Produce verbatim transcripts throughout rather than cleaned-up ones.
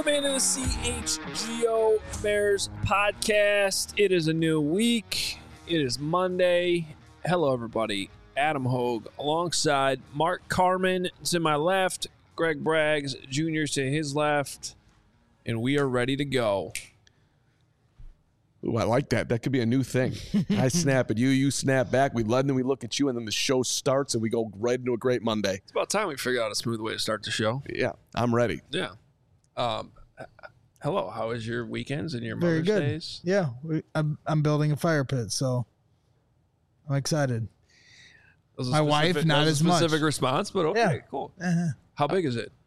Welcome into the C H G O Bears podcast. It is a new week. It is Monday. Hello, everybody. Adam Hogue alongside Mark Carman to my left, Greg Braggs Junior to his left, and we are ready to go. Ooh, I like that. That could be a new thing. I snap at you, you snap back. We let, and then we look at you, and then the show starts, and we go right into a great Monday. It's about time we figure out a smooth way to start the show. Yeah, I'm ready. Yeah. Um, hello. How was your weekends and your Very Mother's good. Days? Yeah, we, I'm I'm building a fire pit, so I'm excited. Was a My wife, specific- not that was as a much. specific response, but okay, Yeah. cool. Uh-huh. How big is it?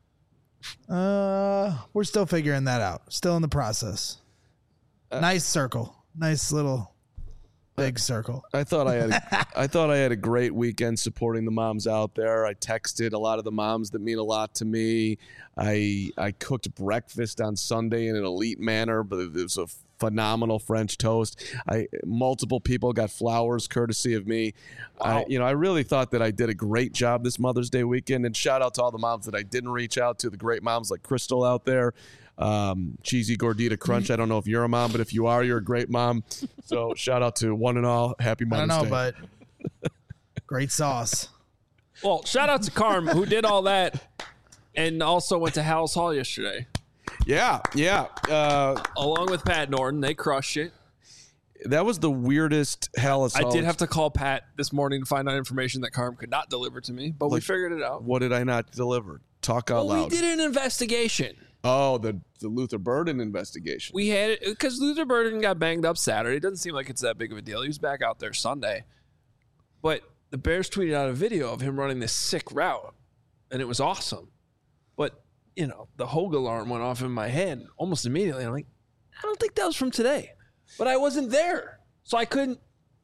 Uh, we're still figuring that out. Still in the process. Uh, nice circle. Nice little big circle. I thought I had a, I thought I had a great weekend supporting the moms out there. I texted a lot of the moms that mean a lot to me. I I cooked breakfast on Sunday in an elite manner, but it was a phenomenal French toast. I multiple people got flowers courtesy of me. Wow. I, you know, I really thought that I did a great job this Mother's Day weekend. And shout out to all the moms that I didn't reach out to, the great moms like Crystal out there. Um, Cheesy Gordita Crunch. I don't know if you're a mom, but if you are, you're a great mom. So shout out to one and all. Happy I Mother's don't know, Day. but great sauce. Well, shout out to Carm who did all that and also went to Hal's Hall yesterday. Yeah, yeah. Uh, Along with Pat Norton. They crushed it. that was the weirdest hell. I did have to call Pat this morning to find out information that Carm could not deliver to me, but we Like, figured it out. What did I not deliver? Talk out Well, loud. we did an investigation. Oh, the, the Luther Burden investigation. We had it because Luther Burden got banged up Saturday. It doesn't seem like it's that big of a deal. He was back out there Sunday. But the Bears tweeted out a video of him running this sick route, and it was awesome. But, you know, the Hogue alarm went off in my head almost immediately. I'm like, I don't think that was from today. But I wasn't there. So I couldn't.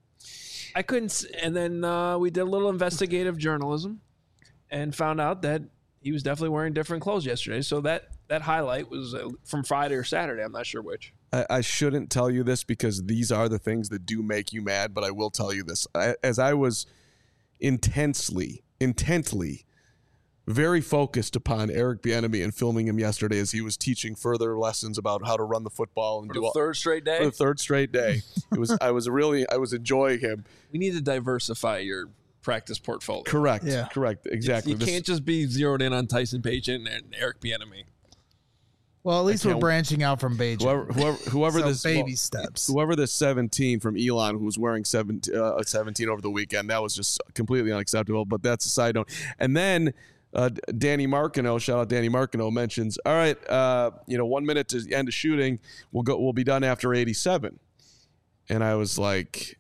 I couldn't. s- And then uh, we did a little investigative journalism and found out that he was definitely wearing different clothes yesterday. So that, that highlight was uh, from Friday or Saturday. I'm not sure which. I, I shouldn't tell you this because these are the things that do make you mad, but I will tell you this. I, as I was intensely, intently, very focused upon Eric Bieniemy and filming him yesterday as he was teaching further lessons about how to run the football and For do the all, third straight day. for the third straight day. It was I was really I was enjoying him. We need to diversify your practice portfolio. Correct. Yeah. Correct. Exactly. You This- can't just be zeroed in on Tyson Bagent and Eric Bieniemy. Well, at least we're can't- branching out from Beijing. whoever whoever, whoever so this baby well, steps. whoever this seventeen from Elon who was wearing seventeen, uh, seventeen over the weekend, that was just completely unacceptable. But that's a side note. And then uh, Danny Marcano, shout out Danny Marcano, mentions, all right, uh, you know, one minute to the end of shooting, we'll go, we'll be done after eighty-seven. And I was like,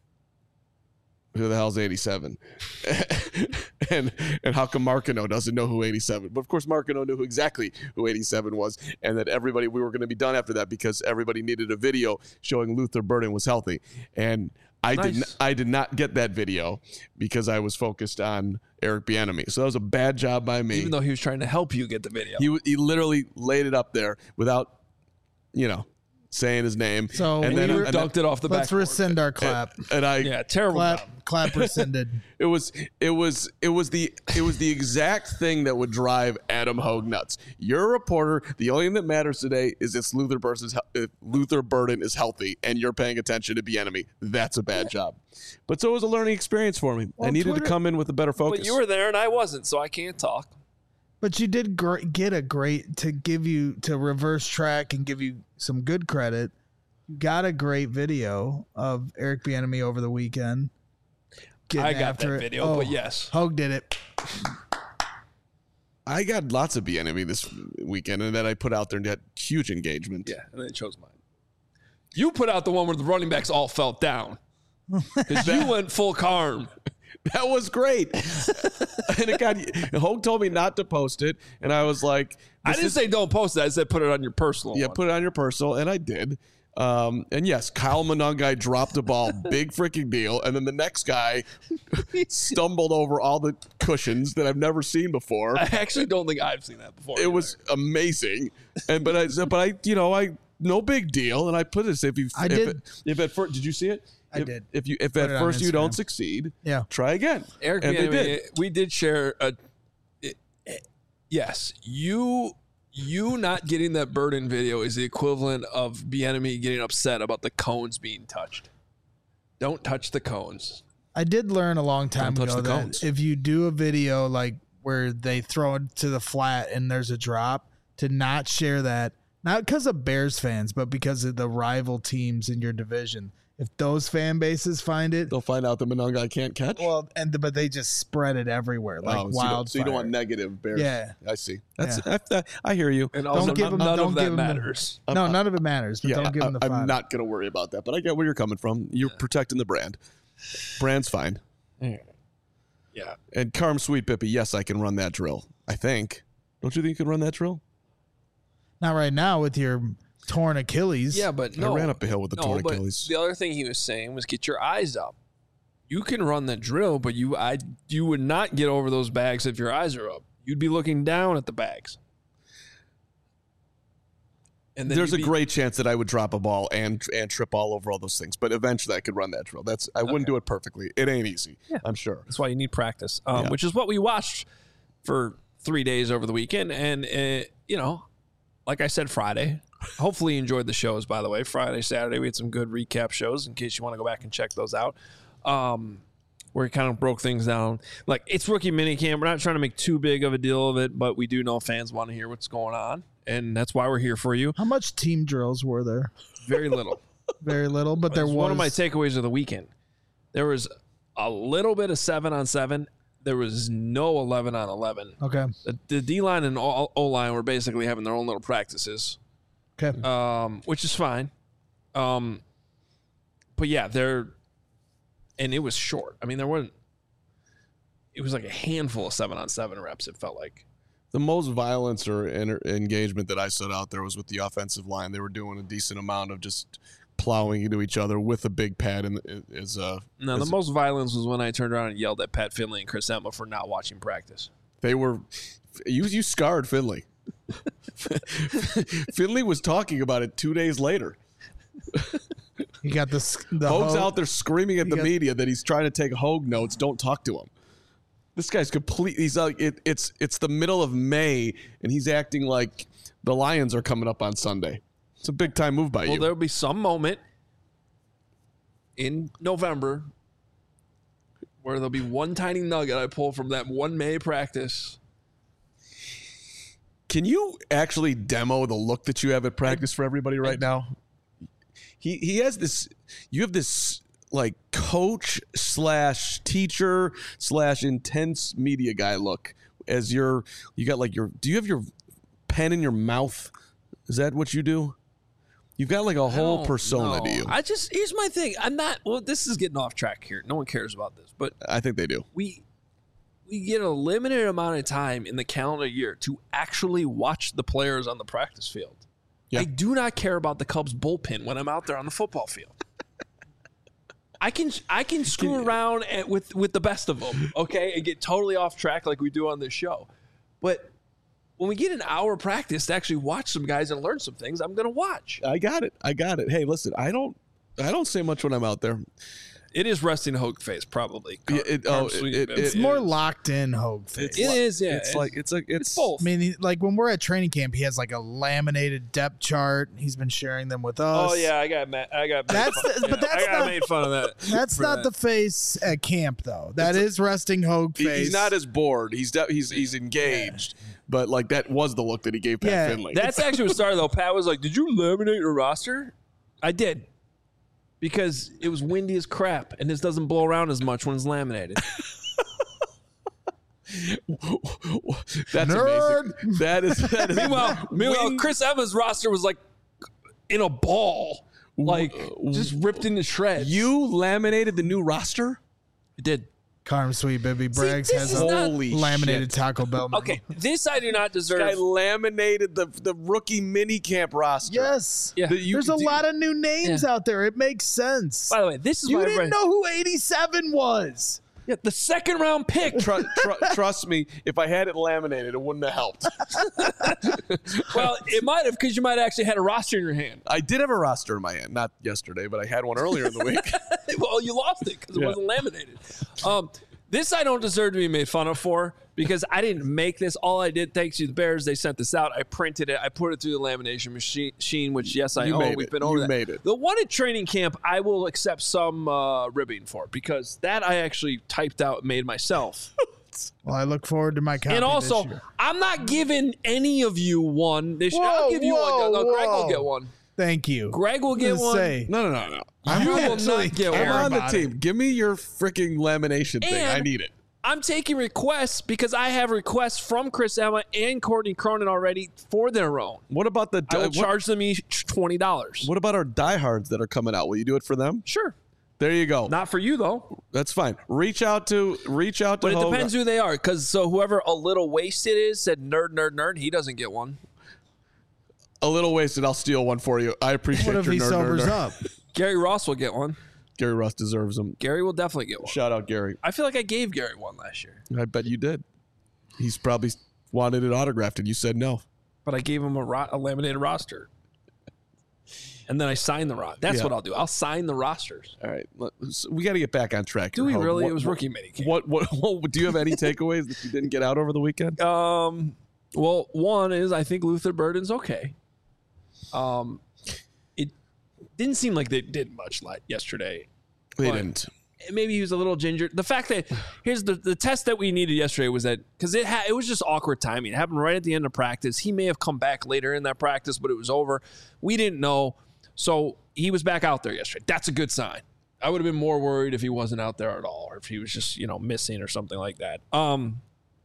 who the hell's eighty-seven? and and how come Marcano doesn't know who eighty-seven? But of course, Marcano knew who exactly who eighty-seven was, and that everybody we were going to be done after that because everybody needed a video showing Luther Burden was healthy. And I Nice. did n- I did not get that video because I was focused on Eric Bieniemy. So that was a bad job by me. Even though he was trying to help you get the video. he w- he literally laid it up there without, you know, saying his name. So and we then were- and then- Dunked it off the Let's back. rescind our clap. and I Yeah, terrible clap, job. clap rescinded. It was it was it was the it was the exact thing that would drive Adam Hogue nuts. You're a reporter. The only thing that matters today is if Luther Burden is, if Luther Burden is healthy and you're paying attention to Bieniemy. That's a bad job. But so it was a learning experience for me. I Well, needed Twitter- to come in with a better focus. But you were there and I wasn't, so I can't talk. But you did gr- get a great to give you to reverse track and give you some good credit. You got a great video of Eric Bieniemy over the weekend. getting I got after that it. video, Oh, but yes. Hogue did it. I got lots of Bieniemy this weekend, and then I put out there and got huge engagement. Yeah, and then it chose mine. You put out the one where the running backs all felt down. Because you went full Carm. That was great. And it got Hogue told me not to post it, and I was like, I this didn't is- say don't post it. I said put it on your personal Yeah, one. put it on your personal, and I did. Um, and yes, Kyle Monangai dropped a ball, big freaking deal. And then the next guy stumbled over all the cushions that I've never seen before. I actually don't think I've seen that before. It either. was amazing. And but I, but I, you know, I no big deal. And I put this if you, I if, did. It, if at first, did you see it? I if, did. If you, if Put at it on first you don't Instagram. succeed, Yeah. try again. Eric and they Bieniemy, did. we did share a. it- it- yes, you You not getting that Burden video is the equivalent of Bieniemy getting upset about the cones being touched. Don't touch the cones. I did learn a long time Don't touch ago the that cones. if you do a video like where they throw it to the flat and there's a drop, to not share that, not because of Bears fans, but because of the rival teams in your division. If those fan bases find it, They'll find out the Monongalia can't catch. well, and the, but they just spread it everywhere like Oh, so you don't- wildfire. So you don't want negative Bears. Yeah. I see. That's I, I, I hear you. And also, give none, them- none don't of give that them the- matters. No, none of it matters. But Yeah, don't give them the I, fodder. I'm not going to worry about that, but I get where you're coming from. You're protecting the brand. Brand's fine. Yeah. And Carm Sweet Bippy, yes, I can run that drill. I think. Don't you think you can run that drill? Not right now with your torn Achilles. Yeah, but no. I ran up a hill with the no, torn but Achilles. the other thing he was saying was get your eyes up. You can run the drill, but you I you would not get over those bags if your eyes are up. You'd be looking down at the bags. And then There's a you'd be- great chance that I would drop a ball and and trip all over all those things, but eventually I could run that drill. That's I wouldn't Okay. do it perfectly. It ain't easy. Yeah. I'm sure. That's why you need practice, um, Yeah. which is what we watched for three days over the weekend. And, uh, you know, like I said, Friday. Hopefully you enjoyed the shows, by the way. Friday, Saturday, we had some good recap shows in case you want to go back and check those out. Um, where he kind of broke things down. Like, it's rookie minicamp. We're not trying to make too big of a deal of it, but we do know fans want to hear what's going on. And that's why we're here for you. How much team drills were there? Very little. Very little, but there That's was one of my takeaways of the weekend. There was a little bit of seven on seven. There was no eleven on eleven. Okay. The, the D line and O line were basically having their own little practices, Okay. um, which is fine. Um, but yeah, they're and it was short. I mean, there wasn't. It was like a handful of seven on seven reps. It felt like. The most violence or enter- engagement that I saw out there was with the offensive line. They were doing a decent amount of just plowing into each other with a big pad. And is uh, No, the is- most violence was when I turned around and yelled at Pat Finley and Chris Emma for not watching practice. they were you you scarred Finley. Finley was talking about it two days later. You got this. The Hoag's Hoag- out there screaming at You the got- media that he's trying to take Hoag notes. Don't talk to him. This guy's complete. He's like it, it's it's the middle of May and he's acting like the Lions are coming up on Sunday. It's a big time move by Well, you. there'll be some moment in November where there'll be one tiny nugget I pull from that one May practice. Can you actually demo the look that you have at practice for everybody right now? He he has this. You have this like coach slash teacher slash intense media guy look as your you got like your. Do you have your pen in your mouth? Is that what you do? You've got like a whole don't persona know. to you. I just here's my thing. I'm not. Well, this is getting off track here. No one cares about this, but I think they do. we we get a limited amount of time in the calendar year to actually watch the players on the practice field. Yeah. I do not care about the Cubs bullpen when I'm out there on the football field. I can I can screw around at, with with the best of them, okay, and get totally off track like we do on this show. But when we get an hour practice to actually watch some guys and learn some things, I'm gonna watch. I got it. I got it. Hey, listen. I don't. I don't say much when I'm out there. It is resting Hoag face, probably. Car- Yeah, it- Carm oh, Sweet it- Bib. It's it more is. locked in Hoag face. It is, yeah. It's like it's like it's, it's both. I mean, he, like when we're at training camp, he has like a laminated depth chart. He's been sharing them with us. Oh yeah, I got ma- I got. made That's fun- the- but yeah, that's I got not- made fun of that. That's for not that. the face at camp, though. That is resting Hoag He- face. he's not as bored. He's de- he's he's engaged. But like that was the look that he gave Pat Yeah. Finley. That's actually what started though. Pat was like, "Did you laminate your roster?" I did, because it was windy as crap, and this doesn't blow around as much when it's laminated. That's Nerd. amazing. That is that is meanwhile, meanwhile, Wing- Chris Evans' roster was like in a ball, like just ripped into shreds. You laminated the new roster? I did. Carm Sweet Baby Braggs this has is a not- Holy laminated shit. Taco Bell menu. Okay, this I do not deserve. Guy laminated the the rookie minicamp roster. Yes. Yeah. The- you- There's a do- lot of new names Yeah. out there. It makes sense. By the way, this is You why didn't everybody- know who eighty-seven was. Yeah, the second round pick. Tru- tru- trust me, if I had it laminated, it wouldn't have helped. Well, it might have, because you might have actually had a roster in your hand. I did have a roster in my hand, not yesterday, but I had one earlier in the week. Well, you lost it because it Yeah. wasn't laminated. Um, This I don't deserve to be made fun of for because I didn't make this. All I did, thanks to the Bears, they sent this out. I printed it. I put it through the lamination machine, which, yes, I You own. made We've it. been over You that. made it. The one at training camp, I will accept some uh, ribbing for because that I actually typed out and made myself. Well, I look forward to my copy And also, this year. I'm not giving any of you one this year. Whoa, I'll give you whoa, one. No, Greg will whoa. get one. Thank you. Greg will I get was gonna one. Say, No, no, no, no. I You will actually not get care I'm on the about team. it. Give me your freaking lamination thing. And- I need it. I'm taking requests because I have requests from Chris Emma and Courtney Cronin already for their own. What about the I will what, charge them each twenty dollars. what about our diehards that are coming out? Will you do it for them? Sure. There you go. Not for you, though. That's fine. Reach out to reach out to But it Hogan. depends who they are. Because so whoever a little wasted is said nerd, nerd, nerd. He doesn't get one. A little wasted. I'll steal one for you. I appreciate What if your he nerd, sobers nerd, nerd. up? Gary Ross will get one. Gary Russ deserves them. Gary will definitely get one. Shout out Gary. I feel like I gave Gary one last year. I bet you did. He's probably wanted it autographed and you said no. But I gave him a, ro- a laminated roster. And then I signed the roster. That's Yeah. what I'll do. I'll sign the rosters. All right, let- so we got to get back on track. Do here, we Hogan. really? What- It was what- rookie minicamp. What, what what do you have any takeaways that you didn't get out over the weekend? Um, well, one is I think Luther Burden's okay. Um, it didn't seem like they did much like yesterday. They but didn't. Maybe he was a little ginger. The fact that here's the the test that we needed yesterday was that because it ha- it was just awkward timing. It happened right at the end of practice. He may have come back later in that practice, but it was over. We didn't know, so he was back out there yesterday. That's a good sign. I would have been more worried if he wasn't out there at all, or if he was just you know missing or something like that. Um.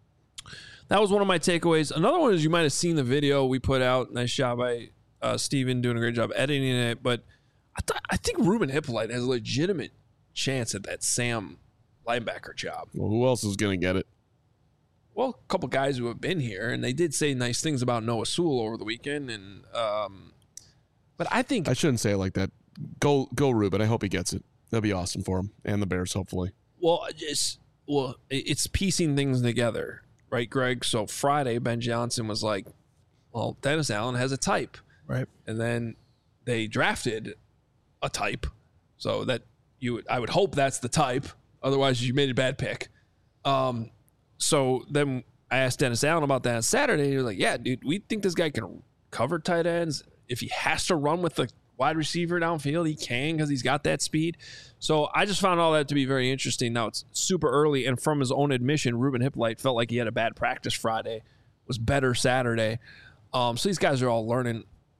That was one of my takeaways. Another one is you might have seen the video we put out. Nice job by uh, Steven doing a great job editing it. But I, th- I think Ruben Hippolyte has a legitimate chance at that Sam linebacker job. Well, who else is going to get it? Well, a couple guys who have been here, and they did say nice things about Noah Sewell over the weekend. And um, but I think I shouldn't say it like that. Go go Ruben. I hope he gets it. That'd be awesome for him and the Bears, hopefully. well, it's well, it's piecing things together, right, Greg? So Friday, Ben Johnson was like, "Well, Dennis Allen has a type." Right. And then they drafted a type, so that you would, I would hope that's the type. Otherwise, you made a bad pick. Um, so then I asked Dennis Allen about that on Saturday. He was like, "Yeah, dude, we think this guy can cover tight ends. If he has to run with the wide receiver downfield, he can because he's got that speed." So I just found all that to be very interesting. Now it's super early, and from his own admission, Ruben Hippolyte felt like he had a bad practice Friday, was better Saturday. Um, so these guys are all learning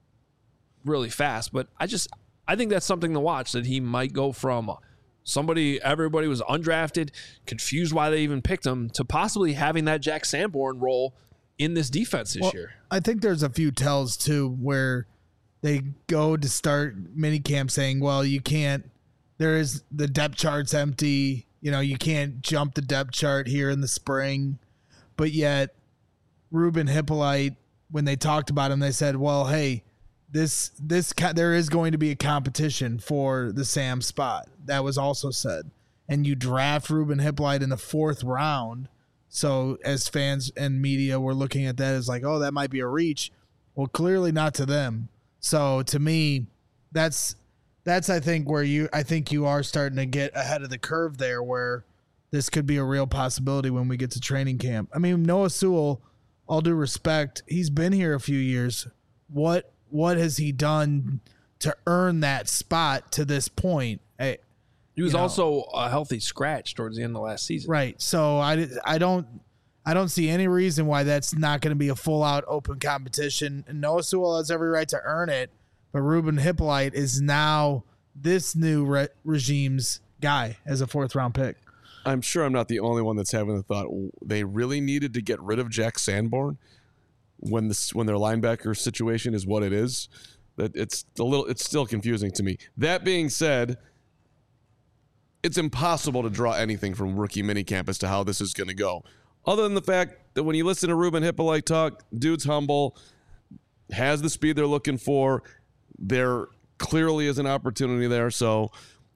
really fast, but I just I think that's something to watch, that he might go from somebody everybody was undrafted, confused why they even picked him, to possibly having that Jack Sanborn role in this defense this Well, year. I think there's a few tells too where they go to start mini camp saying, well, you can't, there is the depth chart's empty. You know, you can't jump the depth chart here in the spring. But yet Ruben Hippolyte, when they talked about him, they said, well, hey, this, this, there is going to be a competition for the Sam spot. That was also said. And you draft Ruben Hippolyte in the fourth round. So as fans and media were looking at that as like, oh, that might be a reach. Well, clearly not to them. So to me, that's that's I think where you I think you are starting to get ahead of the curve there, where this could be a real possibility when we get to training camp. I mean, Noah Sewell, all due respect, he's been here a few years. What what has he done to earn that spot to this point? Hey, He was you know. also a healthy scratch towards the end of last season. Right. So I, I don't I don't see any reason why that's not going to be a full out open competition. And Noah Sewell has every right to earn it, but Ruben Hippolyte is now this new re- regime's guy as a fourth round pick. I'm sure I'm not the only one that's having the thought they really needed to get rid of Jack Sanborn when this when their linebacker situation is what it is. That it's a little it's still confusing to me. That being said, it's impossible to draw anything from rookie minicamp as to how this is going to go. Other than the fact that when you listen to Ruben Hippolyte talk, dude's humble, has the speed they're looking for. There clearly is an opportunity there, so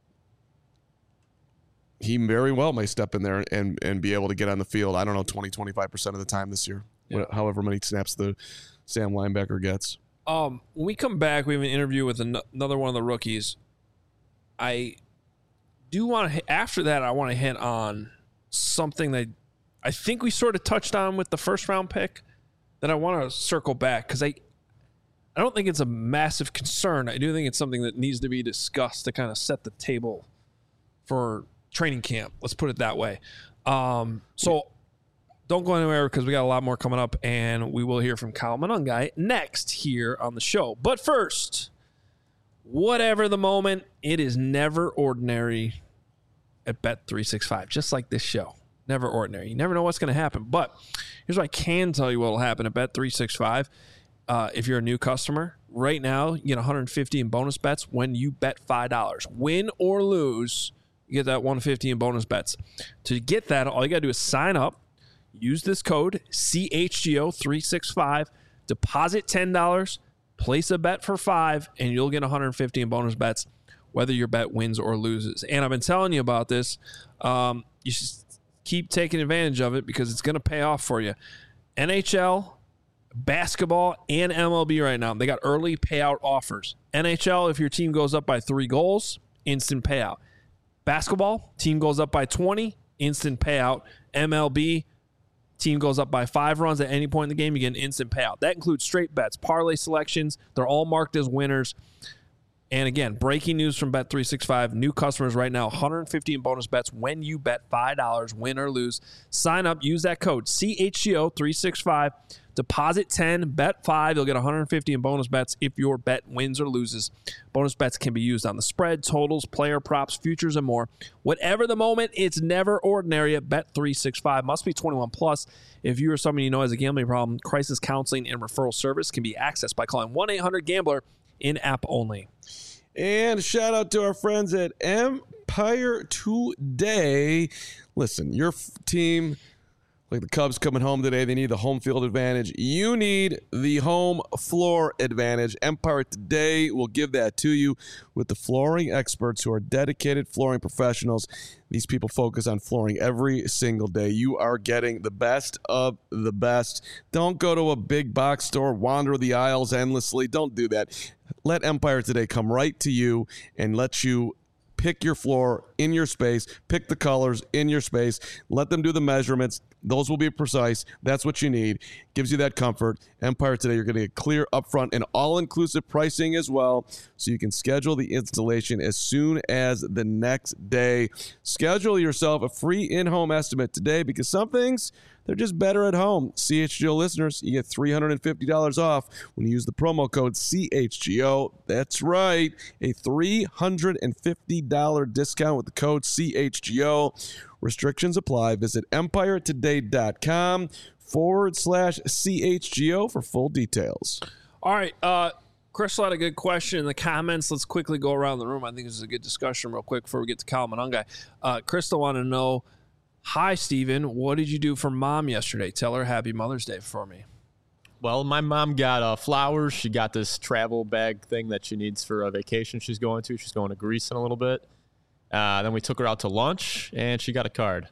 he very well may step in there and, and be able to get on the field, I don't know, twenty, twenty-five percent of the time this year, Yeah. however many snaps the Sam linebacker gets. Um, when we come back, we have an interview with an- another one of the rookies. I do want to, after that, I want to hit on something that I think we sort of touched on with the first round pick that I want to circle back because I, I don't think it's a massive concern. I do think it's something that needs to be discussed to kind of set the table for training camp. Let's put it that way. Um, so don't go anywhere because we got a lot more coming up, and we will hear from Kyle Monangai next here on the show. But first, whatever the moment, it is never ordinary at Bet three sixty-five, just like this show. Never ordinary. You never know what's going to happen. But here's what I can tell you what will happen at Bet three sixty-five. Uh, if you're a new customer, right now, you get one hundred fifty in bonus bets when you bet five dollars. Win or lose, you get that one hundred fifty in bonus bets. To get that, all you got to do is sign up, use this code C H G O three sixty-five, deposit ten dollars, place a bet for five, and you'll get one hundred fifty in bonus bets, whether your bet wins or loses. And I've been telling you about this. Um, you should keep taking advantage of it because it's going to pay off for you. N H L, basketball, and M L B right now, they got early payout offers. N H L, if your team goes up by three goals, instant payout. Basketball, team goes up by twenty, instant payout. M L B, team goes up by five runs at any point in the game, you get an instant payout. That includes straight bets, parlay selections. They're all marked as winners. And again, breaking news from Bet three sixty-five. New customers right now, one hundred fifty in bonus bets when you bet five dollars, win or lose. Sign up, use that code C H G O three sixty-five. Deposit ten, bet five. You'll get one hundred fifty in bonus bets if your bet wins or loses. Bonus bets can be used on the spread, totals, player props, futures, and more. Whatever the moment, it's never ordinary at Bet three sixty-five. Must be twenty-one plus. If you or someone you know has a gambling problem, crisis counseling and referral service can be accessed by calling one eight hundred gambler in-app only. And shout out to our friends at Empire Today. Listen, your f- team, like the Cubs coming home today, they need the home field advantage. You need the home floor advantage. Empire Today will give that to you with the flooring experts who are dedicated flooring professionals. These people focus on flooring every single day. You are getting the best of the best. Don't go to a big box store, wander the aisles endlessly. Don't do that. Let Empire Today come right to you and let you pick your floor in your space, pick the colors in your space, let them do the measurements. Those will be precise. That's what you need. Gives you that comfort. Empire Today, you're going to get clear upfront and all-inclusive pricing as well, so you can schedule the installation as soon as the next day. Schedule yourself a free in-home estimate today because some things, they're just better at home. C H G O listeners, you get three hundred fifty dollars off when you use the promo code C H G O. That's right, a three hundred fifty dollars discount with the code C H G O. Restrictions apply. Visit empiretoday.com forward slash CHGO for full details. All right. Uh, Crystal had a good question in the comments. Let's quickly go around the room. I think this is a good discussion real quick before we get to Kyle Monangai. Uh, Crystal wanted to know, hi, Steven. What did you do for Mom yesterday? Tell her Happy Mother's Day for me. Well, my mom got uh, flowers. She got this travel bag thing that she needs for a vacation she's going to. She's going to Greece in a little bit. Uh, then we took her out to lunch, and she got a card.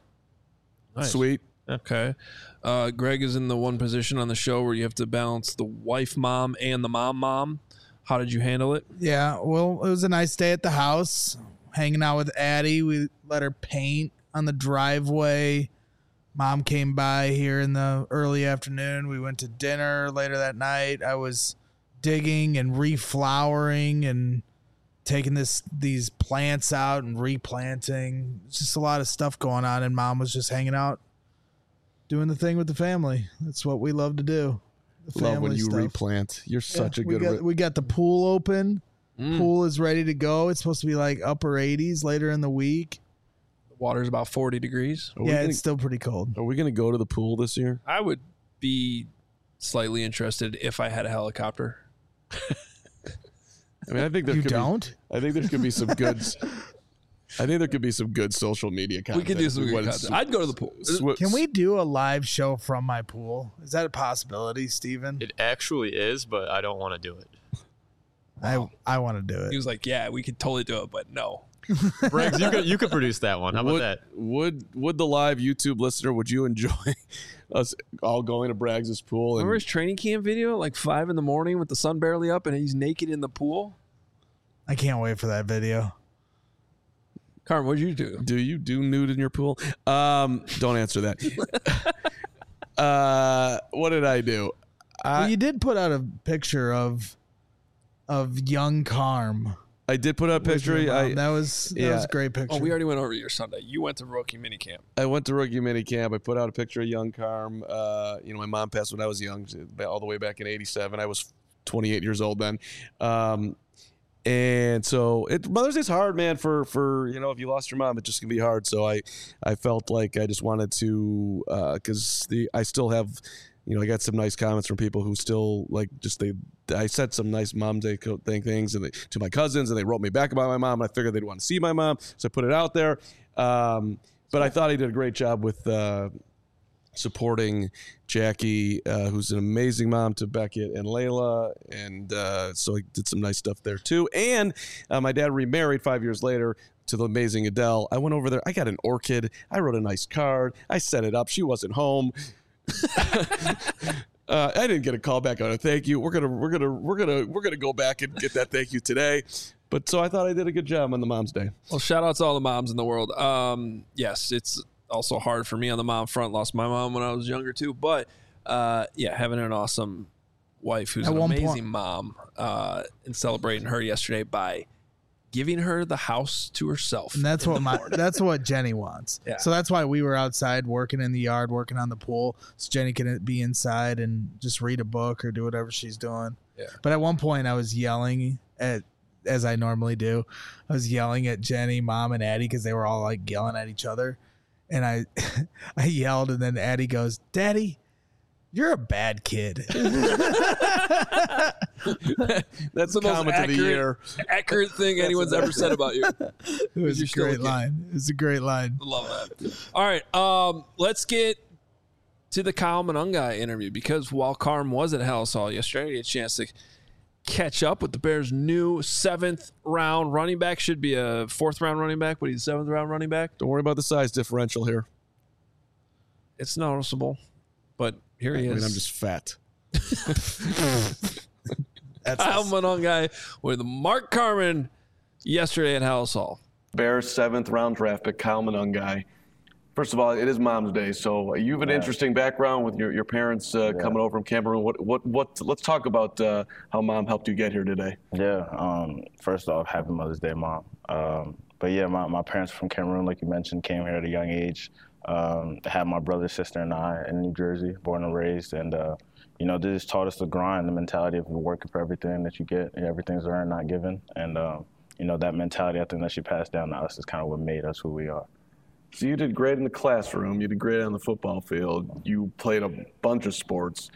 Nice. Sweet. Okay. Uh, Greg is in the one position on the show where you have to balance the wife mom and the mom mom. How did you handle it? Yeah, well, it was a nice day at the house, hanging out with Addie. We let her paint on the driveway. Mom came by here in the early afternoon. We went to dinner later that night. I was digging and reflowering and taking this these plants out and replanting. It's just a lot of stuff going on, and Mom was just hanging out, doing the thing with the family. That's what we love to do. The Love when you stuff. replant. You're such Yeah, a we good got, re- we got the pool open. Mm. Pool is ready to go. It's supposed to be like upper eighties later in the week. The water's about forty degrees. Are we Yeah, gonna, it's still pretty cold. Are we going to go to the pool this year? I would be slightly interested if I had a helicopter. I mean, I think there You could don't? Be, I think there could be some good. I think there could be some good social media content. We could do some good When content. sw- I'd go to the pool. sw- Can we do a live show from my pool? Is that a possibility, Steven? It actually is, but I don't want to do it. I I want to do He it. was like, yeah, we could totally do it, but no. Briggs, you could, you could produce that one. How about would, that? Would would the live YouTube listener? Would you enjoy us all going to Braggs' pool? And Remember his training camp video at like five in the morning with the sun barely up and he's naked in the pool? I can't wait for that video. Carm, what'd you do? Do you do nude in your pool? Um, don't answer that. uh, what did I do? I, Well, you did put out a picture of of young Carm. I did put out a with picture. your mom. I, that was that yeah. was a great picture. Oh, we already went over your Sunday. You went to rookie minicamp. I went to rookie mini camp. I put out a picture of young Carm. Uh, you know, my mom passed when I was young, all the way back in eighty-seven. I was twenty-eight years old then. Um, and so it, Mother's Day's hard, man, for, for, you know, if you lost your mom, it just can be hard. So I, I felt like I just wanted to, uh, cause the, I still have, you know, I got some nice comments from people who still like just they. I said some nice Mom Day thing things and they, to my cousins, and they wrote me back about my mom. And I figured they'd want to see my mom, so I put it out there. Um, but I thought he did a great job with uh, supporting Jackie, uh, who's an amazing mom to Beckett and Layla, and uh, so he did some nice stuff there too. And uh, my dad remarried five years later to the amazing Adele. I went over there. I got an orchid. I wrote a nice card. I set it up. She wasn't home. uh, I didn't get a call back on a thank you. We're gonna we're gonna we're gonna we're gonna go back and get that thank you today. But so I thought I did a good job on the Mom's Day. Well, shout out to all the moms in the world. Um, yes, it's also hard for me on the mom front. Lost my mom when I was younger too. But uh, yeah, having an awesome wife who's At an one amazing point- mom, uh, and celebrating her yesterday by giving her the house to herself. And that's what my that's what Jenny wants. Yeah. So that's why we were outside working in the yard, working on the pool, so Jenny can be inside and just read a book or do whatever she's doing. Yeah. But at one point, I was yelling at, as I normally do, I was yelling at Jenny, Mom, and Addie because they were all like yelling at each other, and I, I yelled, and then Addie goes, "Daddy, you're a bad kid." That's the most Comment of the accurate, year. accurate thing anyone's ever said about you. It was You're a still a great kid. line. It was a great line. Love that. All right, um, let's get to the Kyle Monangai interview, because while Carm was at Hallis Hall yesterday, he had a chance to catch up with the Bears' new seventh round running back. Should be a fourth round running back, but he's a seventh round running back. Don't worry about the size differential here. It's noticeable, but here he I is. mean, I'm just fat. That's Kyle Monangai with Mark Carman yesterday at Hallis Hall. Bears seventh round draft pick, Kyle Monangai. First of all, it is Mom's Day, so you have an Yeah. interesting background with your, your parents uh, Yeah. coming over from Cameroon. What what what? Let's talk about uh, how Mom helped you get here today. Yeah. Um, first off, happy Mother's Day, Mom. Um, but yeah, my, my parents from Cameroon, like you mentioned, came here at a young age. Um, had my brother, sister, and I in New Jersey, born and raised. And, uh, you know, they just taught us the grind, the mentality of working for everything that you get. Everything's earned, not given. And, um, you know, that mentality, I think that she passed down to us is kind of what made us who we are. So you did great in the classroom. You did great on the football field. You played a bunch of sports.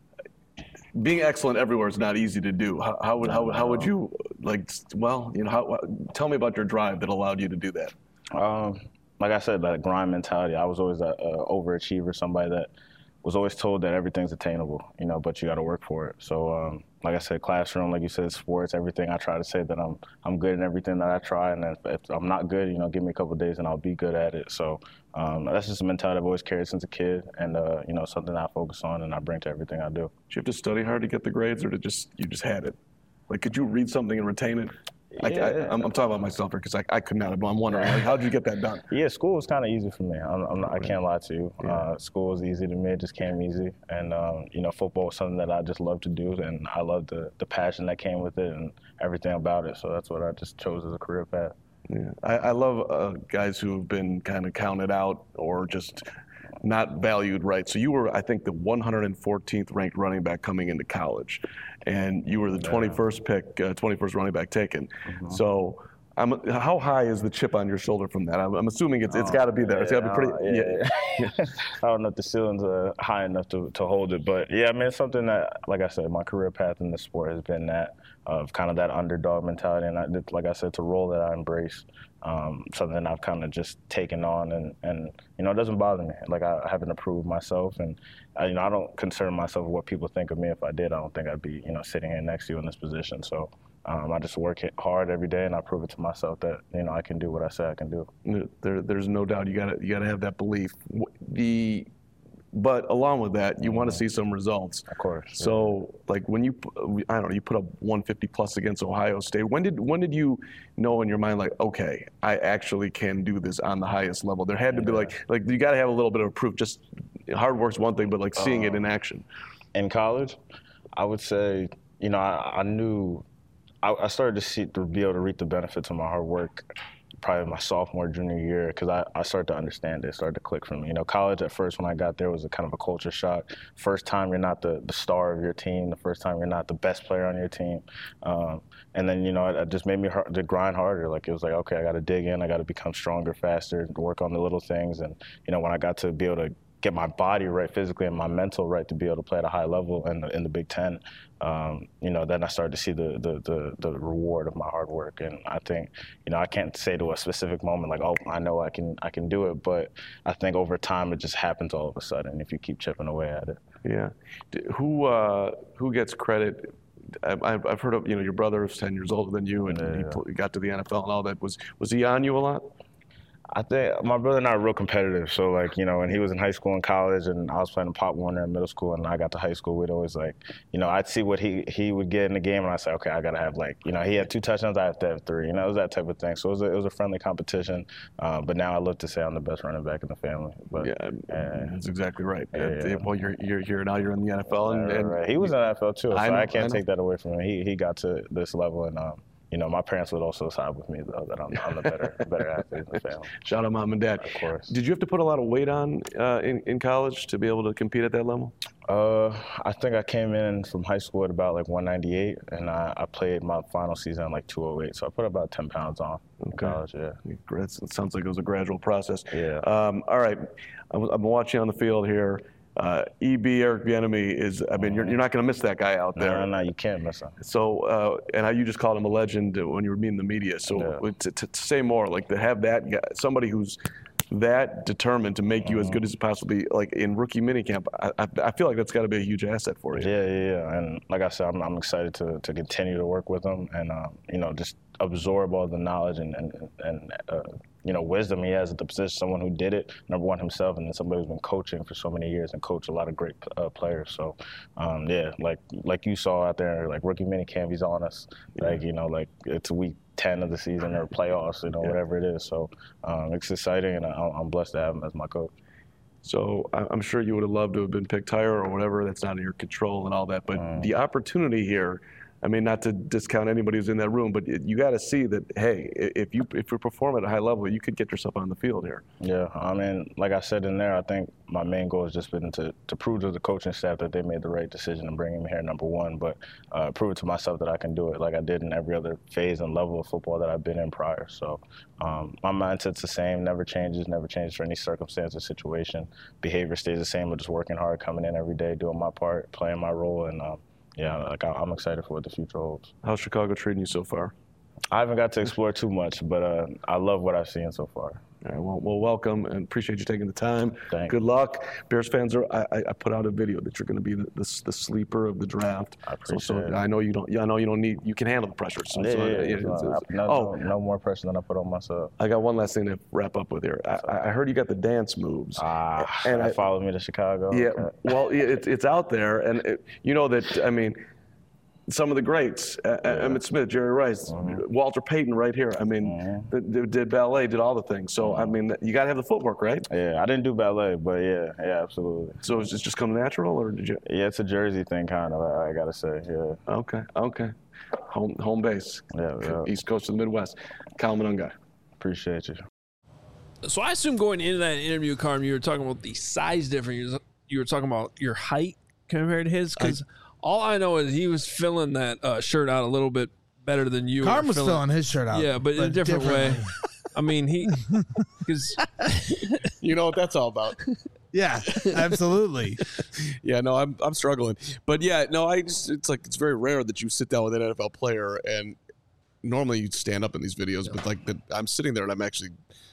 Being excellent everywhere is not easy to do. How, how would how, would- how would you like? Well, you know, how, tell me about your drive that allowed you to do that. Um, like I said, that grind mentality. I was always an overachiever, somebody that was always told that everything's attainable, you know, but you got to work for it. So, um, like I said, classroom, like you said, sports, everything. I try to say that I'm I'm good in everything that I try, and if, if I'm not good, you know, give me a couple of days and I'll be good at it. So um, that's just a mentality I've always carried since a kid, and uh, you know, something I focus on and I bring to everything I do. Did you have to study hard to get the grades, or did just you just had it? Like, could you read something and retain it? I, Yeah. I, I'm, I'm talking about myself here because I, I could not. I'm wondering, like, how did you get that done? Yeah, school was kind of easy for me. I'm, I'm not, I can't lie to you. Uh, school was easy to me. It just came easy. And, um, you know, football was something that I just loved to do. And I loved the, the passion that came with it and everything about it. So that's what I just chose as a career path. Yeah. I, I love uh, guys who have been kind of counted out or just not valued right. So you were, I think, the one hundred fourteenth ranked running back coming into college, and you were the twenty-first pick, uh, twenty-first running back taken. Mm-hmm. So, I'm, how high is the chip on your shoulder from that? I'm, I'm assuming it's it's got to be there. It's got to be pretty. Uh, yeah, yeah. I don't know if the ceilings are high enough to, to hold it, but yeah, I mean, it's something that, like I said, my career path in the sport has been that of kind of that underdog mentality, and I, like I said, it's a role that I embrace, um, something I've kind of just taken on, and, and you know, it doesn't bother me. Like I haven't approved myself, and I, you know, I don't concern myself with what people think of me. If I did, I don't think I'd be, you know, sitting here next to you in this position. So. Um, I just work hard every day, and I prove it to myself that you know I can do what I say I can do. There, there's no doubt you got to you got to have that belief. The But along with that, you want to see some results. Of course. So, like when you, I don't know, you put up one fifty plus against Ohio State. When did when did you know in your mind, like, okay, I actually can do this on the highest level? There had to be like, like you got to have a little bit of proof. Just hard work's one thing, but like seeing uh, it in action. In college, I would say, you know, I, I knew, I, I started to see to be able to reap the benefits of my hard work. Probably my sophomore, junior year, because I, I started to understand it, it started to click for me. You know, college at first when I got there was a kind of a culture shock. First time you're not the, the star of your team, the first time you're not the best player on your team. Um, and then, you know, it, it just made me hard, to grind harder. Like, it was like, okay, I got to dig in, I got to become stronger, faster, work on the little things. And, you know, when I got to be able to get my body right physically and my mental right to be able to play at a high level in the, in the Big Ten, um, you know, then I started to see the, the, the, the reward of my hard work. And I think, you know, I can't say to a specific moment like, oh, I know I can I can do it. But I think over time it just happens all of a sudden if you keep chipping away at it. Yeah. Who uh, who gets credit? I've, I've heard of, you know, your brother is ten years older than you, and yeah, he yeah. got to the N F L and all that. Was was he on you a lot? I think my brother and I are real competitive. So, like, you know, when he was in high school and college and I was playing Pop Warner in middle school and I got to high school, we'd always, like, you know, I'd see what he, he would get in the game and I'd say, okay, I got to have, like, you know, he had two touchdowns, I have to have three. You know, it was that type of thing. So it was a, it was a friendly competition. Uh, but now I look to say I'm the best running back in the family. But, yeah, uh, that's exactly right. Yeah, yeah. Well, you're, you're here now, you're in the N F L. And, right, and right. He was in the N F L too, so I, know, I can't I take that away from him. He, he got to this level and, um, you know, my parents would also side with me, though, that I'm, I'm the better better athlete in the family. Shout out mom and dad. Of course. Did you have to put a lot of weight on uh, in, in college to be able to compete at that level? Uh, I think I came in from high school at about like one ninety-eight, and I, I played my final season at like two oh eight, so I put about ten pounds on in okay. college, yeah. It sounds like it was a gradual process. Yeah. Um, all right. I'm, I'm watching on the field here. Uh, E B, Eric Bieniemy is, I mean, you're, you're not going to miss that guy out there. No, no, no, you can't miss him. So, uh, and how you just called him a legend when you were meeting the media. So Yeah. to, to, to say more, like to have that guy, somebody who's that determined to make you as good as possibly, like in rookie minicamp, I, I, I feel like that's got to be a huge asset for you. Yeah, yeah, yeah. And like I said, I'm, I'm excited to, to continue to work with him and, uh, you know, just absorb all the knowledge and, and, and uh, you know, wisdom he has at the position, someone who did it, number one himself, and then somebody who's been coaching for so many years and coached a lot of great uh, players. So, um, yeah, like like you saw out there, like rookie minicamp, he's on us. Yeah. Like, you know, like it's week ten of the season or playoffs, you know, yeah. whatever it is. So um, it's exciting, and I, I'm blessed to have him as my coach. So I'm sure you would have loved to have been picked higher or whatever. That's not in your control and all that. But mm. the opportunity here, I mean, not to discount anybody who's in that room, but it, you got to see that, hey, if you if you perform at a high level, you could get yourself on the field here. Yeah, I mean, like I said in there, I think my main goal has just been to, to prove to the coaching staff that they made the right decision in bringing me here, number one, but uh, prove it to myself that I can do it like I did in every other phase and level of football that I've been in prior. So um, my mindset's the same, never changes, never changes for any circumstance or situation. Behavior stays the same, but just working hard, coming in every day, doing my part, playing my role, and um, yeah, like I'm excited for what the future holds. How's Chicago treating you so far? I haven't got to explore too much, but uh, I love what I've seen so far. All right, well, well, welcome, and appreciate you taking the time. Thanks. Good luck. Bears fans, are. I, I put out a video that you're going to be the, the the sleeper of the draft. I appreciate so, so it. I know you don't. Yeah, I know you don't need. You can handle the pressure. So, yeah, so, yeah, yeah, yeah, it's, no, it's, no, oh, no more pressure than I put on myself. I got one last thing to wrap up with here. I, I heard you got the dance moves. Ah, and I I followed me to Chicago. Yeah, Okay. well, it's it's out there, and it, you know that. I mean. Some of the greats, uh, yeah. Emmitt Smith, Jerry Rice, mm-hmm. Walter Payton right here. I mean, mm-hmm. they, they did ballet, did all the things. So, mm-hmm. I mean, you got to have the footwork, right? Yeah, I didn't do ballet, but yeah, yeah, absolutely. So it's just come natural, or did you? Yeah, it's a Jersey thing, kind of, I, I got to say, yeah. Okay, okay. Home home base. Yeah, yeah. East Coast of the Midwest. Kyle Monangai. Appreciate you. So I assume going into that interview, Carm, you were talking about the size difference. You were talking about your height compared to his, because all I know is he was filling that uh, shirt out a little bit better than you. Carm was filling, filling his shirt out. Yeah, but, but in a different way. I mean, he, because you know what that's all about. Yeah, absolutely. Yeah, no, I'm I'm struggling, but yeah, no, I just it's like it's very rare that you sit down with an N F L player, and normally you stand up in these videos, yeah. but like the, I'm sitting there and I'm actually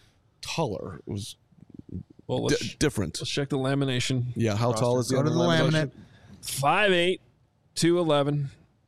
taller. It was well, d- let's, different. Let's check the lamination. Yeah, how roster. tall is he? Go to the laminate. five eight, two eleven.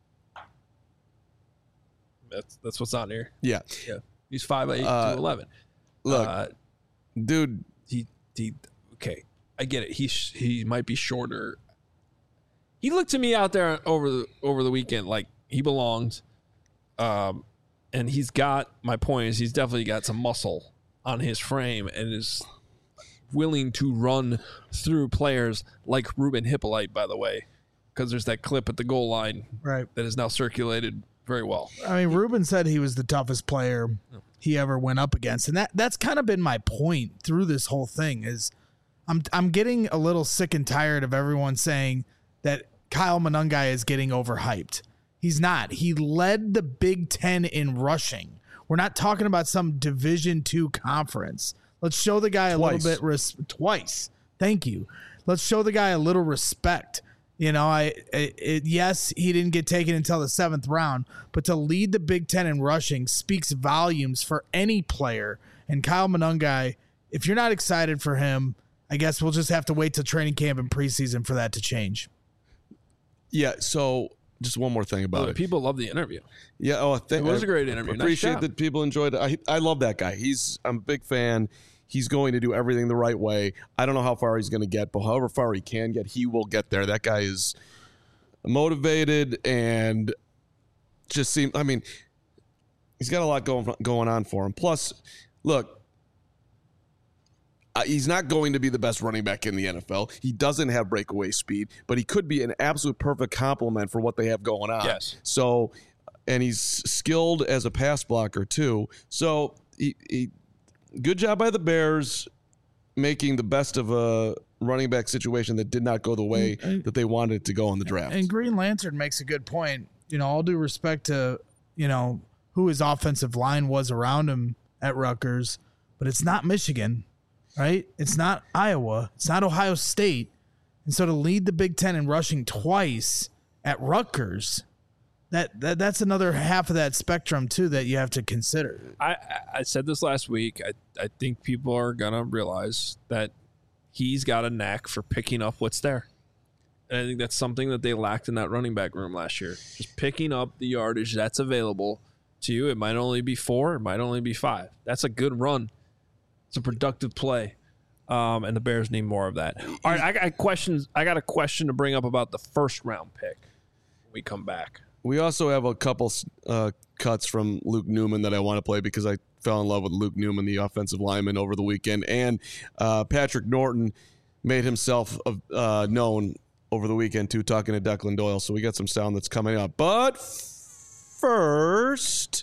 That's that's what's on here. Yeah, yeah. He's five eight, uh, two eleven. Look, uh, dude, he he. Okay, I get it. He sh- he might be shorter. He looked to me out there over the over the weekend like he belonged. Um, and he's got, my point is he's definitely got some muscle on his frame and is willing to run through players like Ruben Hippolyte, by the way, because there's that clip at the goal line Right. that is now circulated very well. I mean, Ruben said he was the toughest player he ever went up against, and that that's kind of been my point through this whole thing. Is I'm I'm getting a little sick and tired of everyone saying that Kyle Monangai is getting overhyped. He's not. He led the Big Ten in rushing. We're not talking about some Division Two conference. Let's show the guy a Twice. little bit res- twice. Thank you. Let's show the guy a little respect. You know, I it, it, yes, he didn't get taken until the seventh round, but to lead the Big Ten in rushing speaks volumes for any player. And Kyle Monangai, if you're not excited for him, I guess we'll just have to wait till training camp and preseason for that to change. Yeah. So just one more thing about Well, it. people love the interview. Yeah. Oh, th- It was I a great interview. Nice Appreciate job. that people enjoyed it. I I love that guy. He's I'm a big fan. He's going to do everything the right way. I don't know how far he's going to get, but however far he can get, he will get there. That guy is motivated and just seem. I mean, he's got a lot going going on for him. Plus, look, uh, he's not going to be the best running back in the N F L. He doesn't have breakaway speed, but he could be an absolute perfect complement for what they have going on. Yes. So, and he's skilled as a pass blocker too. So he. he Good job by the Bears making the best of a running back situation that did not go the way And- that they wanted it to go in the draft. And Green Lantern makes a good point. You know, all due respect to, you know, who his offensive line was around him at Rutgers, but it's not Michigan, right? It's not Iowa. It's not Ohio State. And so to lead the Big Ten in rushing twice at Rutgers, that, that that's another half of that spectrum, too, that you have to consider. I, I- I said this last week. I, I think people are going to realize that he's got a knack for picking up what's there. And I think that's something that they lacked in that running back room last year. Just picking up the yardage that's available to you. It might only be four. It might only be five. That's a good run. It's a productive play. Um, and the Bears need more of that. All right, I got questions. I got a question to bring up about the first round pick when we come back. We also have a couple uh, cuts from Luke Newman that I want to play because I fell in love with Luke Newman, the offensive lineman, over the weekend. And uh, Patrick Norton made himself uh, known over the weekend, too, talking to Declan Doyle. So we got some sound that's coming up. But first,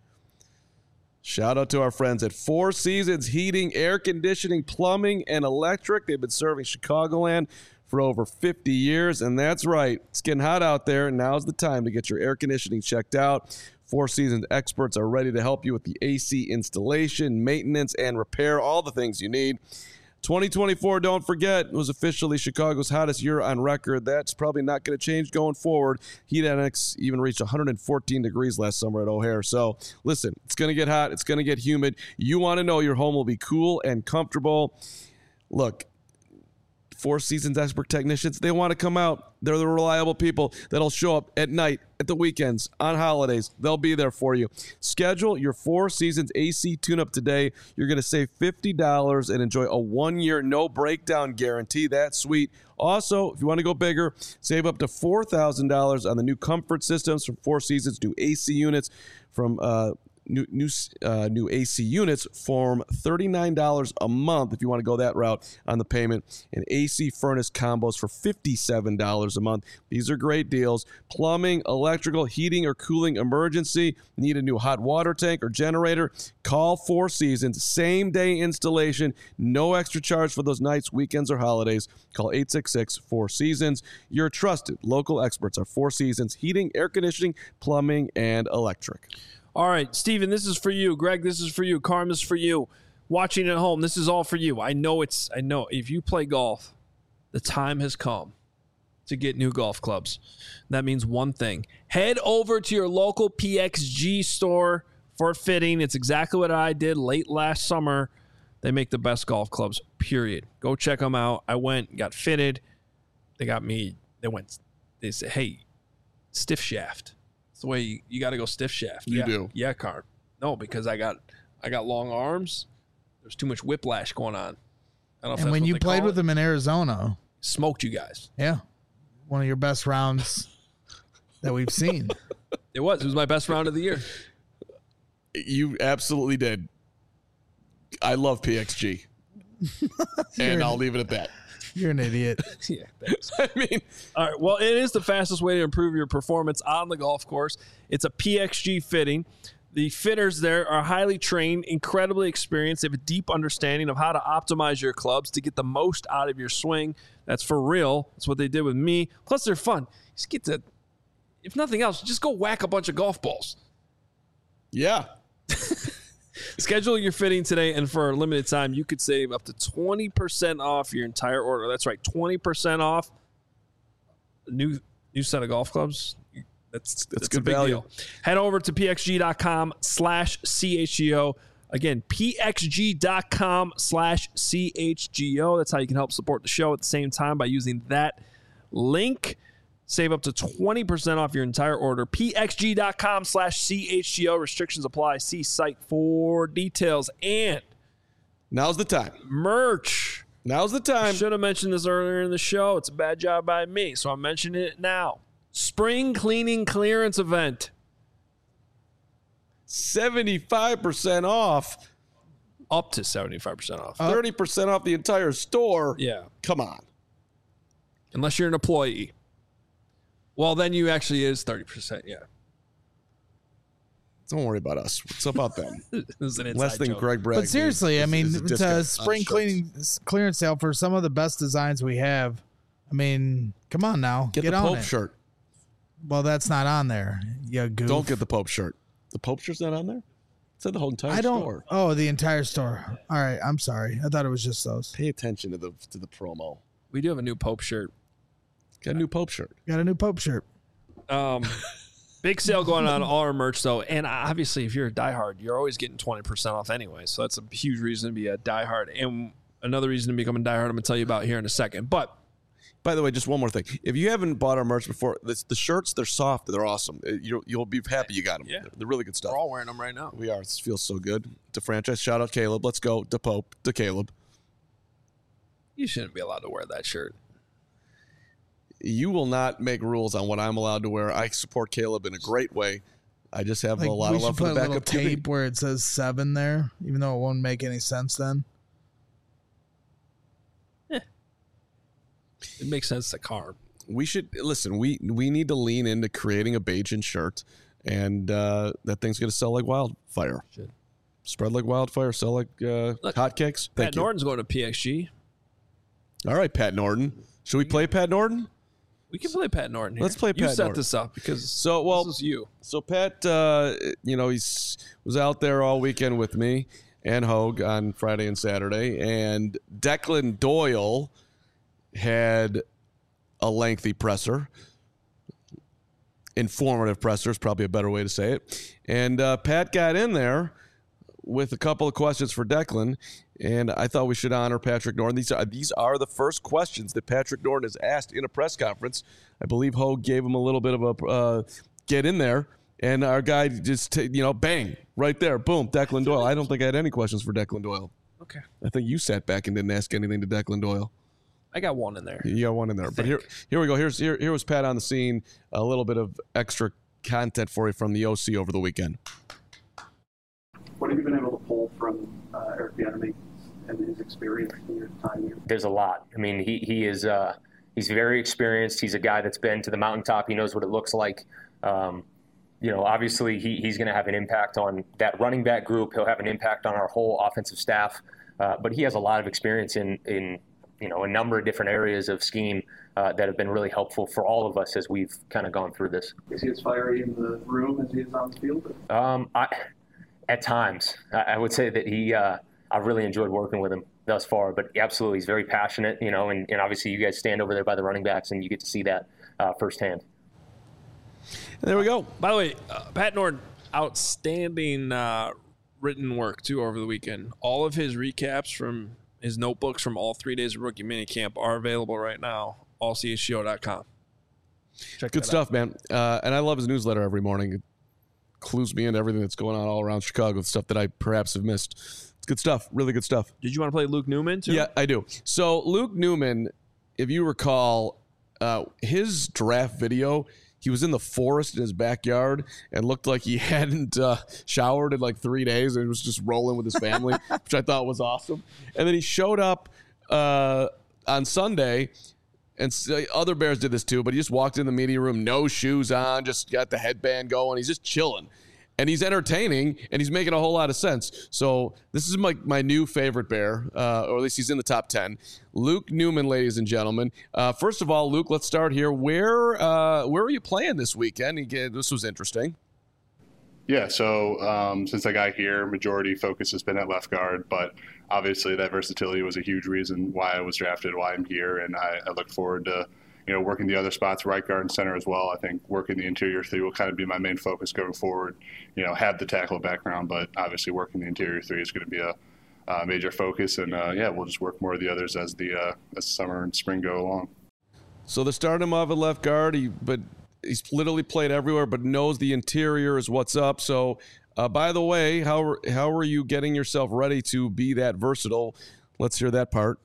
shout out to our friends at Four Seasons Heating, Air Conditioning, Plumbing, and Electric. They've been serving Chicagoland for over fifty years, and that's right. It's getting hot out there, and now's the time to get your air conditioning checked out. Four Seasons experts are ready to help you with the A C installation, maintenance, and repair, all the things you need. twenty twenty-four, don't forget, was officially Chicago's hottest year on record. That's probably not going to change going forward. Heat Index even reached one hundred fourteen degrees last summer at O'Hare. So, listen, it's going to get hot. It's going to get humid. You want to know your home will be cool and comfortable. Look, Four Seasons expert technicians, they want to come out. They're the reliable people that'll show up at night, at the weekends, on holidays. They'll be there for you. Schedule your Four Seasons A C tune-up today. You're going to save fifty dollars and enjoy a one-year no-breakdown guarantee. That's sweet. Also, if you want to go bigger, save up to four thousand dollars on the new comfort systems from Four Seasons, new A C units from uh, New new uh, new A C units form thirty-nine dollars a month if you want to go that route on the payment, and A C furnace combos for fifty-seven dollars a month. These are great deals. Plumbing, electrical, heating, or cooling emergency. Need a new hot water tank or generator? Call Four Seasons. Same day installation. No extra charge for those nights, weekends, or holidays. Call eight six six, four seasons. Your trusted local experts are Four Seasons Heating, Air Conditioning, Plumbing, and Electric. All right, Steven, this is for you. Greg, this is for you. Carm, this is for you. Watching at home, this is all for you. I know it's, I know if you play golf, the time has come to get new golf clubs. That means one thing. Head over to your local P X G store for fitting. It's exactly what I did late last summer. They make the best golf clubs, period. Go check them out. I went, got fitted. They got me, they went, they said, hey, stiff shaft. It's the way you, you got to go stiff shaft. You yeah. do. Yeah, Carm. No, because I got I got long arms. There's too much whiplash going on. I don't know if And that's when what you they played call with it. him in Arizona, Smoked you guys. yeah, one of your best rounds that we've seen. It was. It was my best round of the year. You absolutely did. I love P X G. And I'll leave it at that. You're an idiot. Yeah, thanks. I mean, All right. Well, it is the fastest way to improve your performance on the golf course. It's a P X G fitting. The fitters there are highly trained, incredibly experienced. They have a deep understanding of how to optimize your clubs to get the most out of your swing. That's for real. That's what they did with me. Plus, they're fun. Just get to, if nothing else, just go whack a bunch of golf balls. yeah. Schedule your fitting today, and for a limited time, you could save up to twenty percent off your entire order. That's right, twenty percent off a new new set of golf clubs. That's, that's, good a big value. deal. Head over to pxg.com slash CHGO. Again, pxg.com slash CHGO. That's how you can help support the show at the same time by using that link. Save up to twenty percent off your entire order. pxg.com slash CHGO. Restrictions apply. See site for details. And Now's the time. merch. Now's the I time. should have mentioned this earlier in the show. It's a bad job by me, so I'm mentioning it now. Spring cleaning clearance event. seventy-five percent off. Up to seventy-five percent off. thirty percent off the entire store. Yeah. Come on. Unless you're an employee. Well, then you actually is thirty percent, yeah. Don't worry about us. What's about them? It was an inside Less than joke. Greg Bragg. But seriously, I mean, is a it's a discount on spring shirts. cleaning clearance sale for some of the best designs we have. I mean, come on now, Get, get, the on Pope it. shirt. Well, that's not on there. You goof. Don't get the Pope shirt. The Pope shirt's not on there? It said the whole entire I don't. store. Oh, the entire store. All right, I'm sorry. I thought it was just those. Pay attention to the to the promo. We do have a new Pope shirt. Got a new Pope shirt. Got a new Pope shirt. Um, big sale going on all our merch, though. And obviously, if you're a diehard, you're always getting twenty percent off anyway. So that's a huge reason to be a diehard. And another reason to become a diehard, I'm going to tell you about here in a second. But By the way, just one more thing. If you haven't bought our merch before, this, the shirts, they're soft. They're awesome. Uh, You'll, you'll be happy you got them. Yeah. They're, they're really good stuff. we're all wearing them right now. We are. This feels so good. To franchise. Shout out Caleb. Let's go. To Pope. To Caleb. You shouldn't be allowed to wear that shirt. You will not make rules on what I'm allowed to wear. I support Caleb in a great way. I just have Like, a lot we of should love for put the a little backup T V. tape where it says seven there, even though it won't make any sense then. It makes sense to carb. We should listen. We we need to lean into creating a Bajan shirt, and uh, that thing's going to sell like wildfire. Should. Spread like wildfire. Sell like uh, Look, hotcakes. Thank Pat you. Norton's going to P X G. All right, Pat Norton. Should we play Pat Norton? We can play Pat Norton here. Let's play You Pat set Norton. this up because So well, this is you. So Pat, uh, you know, he's was out there all weekend with me and Hogue on Friday and Saturday, and Declan Doyle had a lengthy presser. Informative presser is probably a better way to say it. And uh, Pat got in there with a couple of questions for Declan, and I thought we should honor Patrick Norton. These are these are the first questions that Patrick Norton has asked in a press conference. I believe Hogue gave him a little bit of a uh, get in there, and our guy just t- you know bang right there, boom, Declan Doyle. I don't think I had any questions for Declan Doyle. Okay. I think you sat back and didn't ask anything to Declan Doyle. I got one in there. You got one in there, but here here we go. Here's here here was Pat on the scene. A little bit of extra content for you from the O C over the weekend. What have you been able to pull from uh, Eric Bieniemy and his experience in your time here? There's a lot. I mean, he he is uh, he's very experienced. He's a guy that's been to the mountaintop. He knows what it looks like. Um, you know, obviously he he's going to have an impact on that running back group. He'll have an impact on our whole offensive staff. Uh, but he has a lot of experience in in you know a number of different areas of scheme uh, that have been really helpful for all of us as we've kind of gone through this. Is he as fiery in the room as he is on the field? Um, I. At times, I would say that he, uh, I've really enjoyed working with him thus far, but absolutely he's very passionate, you know, and, and obviously you guys stand over there by the running backs and you get to see that uh, firsthand. There we go. By the way, uh, Pat Norton, outstanding uh, written work, too, over the weekend. All of his recaps from his notebooks from all three days of rookie minicamp are available right now, all C H G O dot com. Check Good that stuff, out. man. Uh, and I love his newsletter every morning. clues me into everything that's going on all around Chicago, stuff that I perhaps have missed. It's good stuff, really good stuff. Did you want to play Luke Newman too? Yeah, I do. So Luke Newman, if you recall, uh, his draft video, he was in the forest in his backyard and looked like he hadn't uh, showered in like three days and was just rolling with his family, which I thought was awesome. And then he showed up uh, on Sunday. And other Bears did this too, but he just walked in the media room, no shoes on, just got the headband going. He's just chilling. And he's entertaining, and he's making a whole lot of sense. So this is my, my new favorite Bear, uh, or at least he's in the top ten. Luke Newman, ladies and gentlemen. Uh, first of all, Luke, let's start here. Where uh, where are you playing this weekend? This was interesting. Yeah, so um, since I got here, majority focus has been at left guard, but obviously that versatility was a huge reason why I was drafted, why I'm here, and I, I look forward to, you know, working the other spots, right guard and center as well. I think working the interior three will kind of be my main focus going forward. You know, have the tackle background, but obviously working the interior three is going to be a uh, major focus, and uh, yeah, we'll just work more of the others as the uh, as summer and spring go along. So they started him off at left guard, he, but he's literally played everywhere, but knows the interior is what's up. So, uh, by the way, how how are you getting yourself ready to be that versatile? Let's hear that part.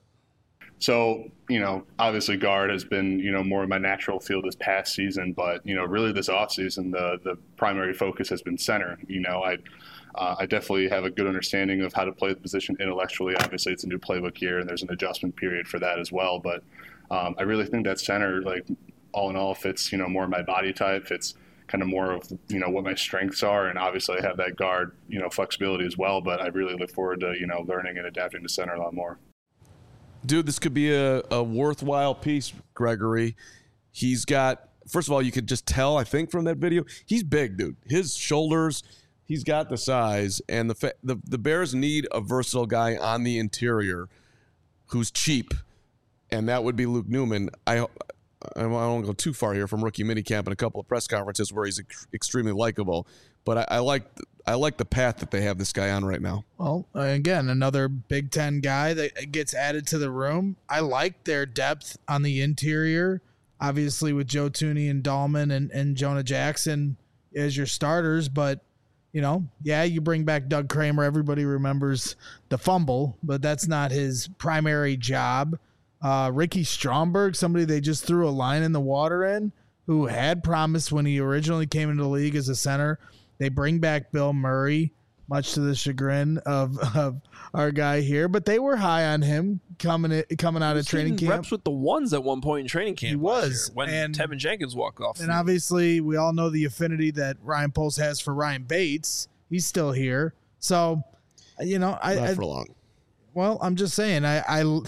So, you know, obviously guard has been, you know, more of my natural field this past season, but, you know, really this offseason, the the primary focus has been center. You know, I uh, I definitely have a good understanding of how to play the position intellectually. Obviously, it's a new playbook here, and there's an adjustment period for that as well. But um, I really think that center, like, all in all, fits, you know, more my body type, fits kind of more of, you know, what my strengths are. And obviously I have that guard, you know, flexibility as well, but I really look forward to, you know, learning and adapting to center a lot more. Dude, this could be a, a worthwhile piece, Gregory. He's got, first of all, you could just tell, I think, from that video, he's big, dude. His shoulders, he's got the size, and the fa- the, the Bears need a versatile guy on the interior who's cheap, and that would be Luke Newman. I I don't want to go too far here from rookie minicamp and a couple of press conferences where he's ex- extremely likable, but I, I like I like the path that they have this guy on right now. Well, again, another Big Ten guy that gets added to the room. I like their depth on the interior, obviously with Joe Thuney and Dahlman and, and Jonah Jackson as your starters, but you know, yeah, you bring back Doug Kramer. Everybody remembers the fumble, but that's not his primary job. Uh, Ricky Stromberg, somebody they just threw a line in the water in, who had promised when he originally came into the league as a center. They bring back Bill Murray, much to the chagrin of, of our guy here, but they were high on him coming in, coming out of training camp. Reps with the ones at one point in training camp. He was when and, Tevin Jenkins walked off. And obviously, we all know the affinity that Ryan Poles has for Ryan Bates. He's still here, so you know, I not I, for long. Well, I'm just saying, I. I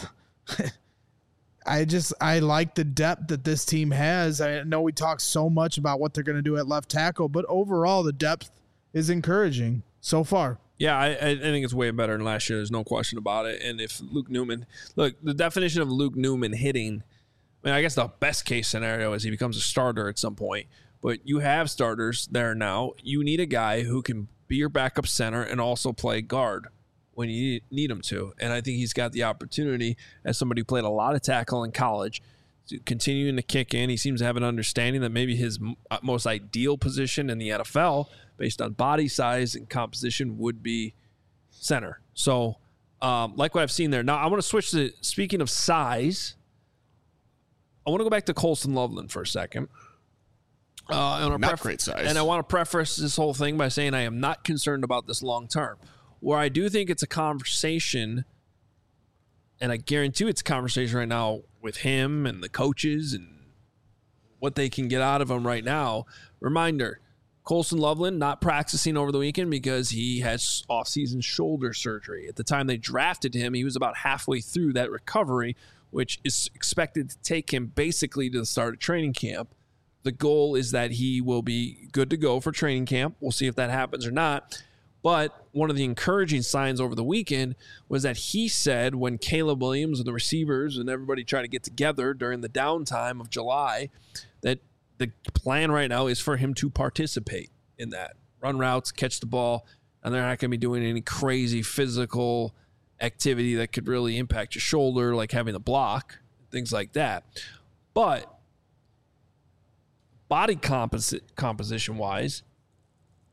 I just I like the depth that this team has. I know we talk so much about what they're going to do at left tackle, but overall the depth is encouraging so far. Yeah, I, I think it's way better than last year. There's no question about it. And if Luke Newman, look, the definition of Luke Newman hitting, I mean, I guess the best case scenario is he becomes a starter at some point. But you have starters there now. You need a guy who can be your backup center and also play guard when you need him to. And I think he's got the opportunity, as somebody who played a lot of tackle in college, to continuing to kick in. He seems to have an understanding that maybe his most ideal position in the N F L, based on body size and composition, would be center. So, um, like what I've seen there. Now, I want to switch to, speaking of size, I want to go back to Colston Loveland for a second. Uh, Not pref- great size. And I want to preface this whole thing by saying I am not concerned about this long term. Where I do think it's a conversation, and I guarantee it's a conversation right now with him and the coaches and what they can get out of him right now. Reminder, Colston Loveland not practicing over the weekend because he has off-season shoulder surgery. At the time they drafted him, he was about halfway through that recovery, which is expected to take him basically to the start of training camp. The goal is that he will be good to go for training camp. We'll see if that happens or not. But one of the encouraging signs over the weekend was that he said when Caleb Williams and the receivers and everybody tried to get together during the downtime of July, that the plan right now is for him to participate in that. Run routes, catch the ball, and they're not going to be doing any crazy physical activity that could really impact your shoulder, like having a block, things like that. But body composite composition-wise,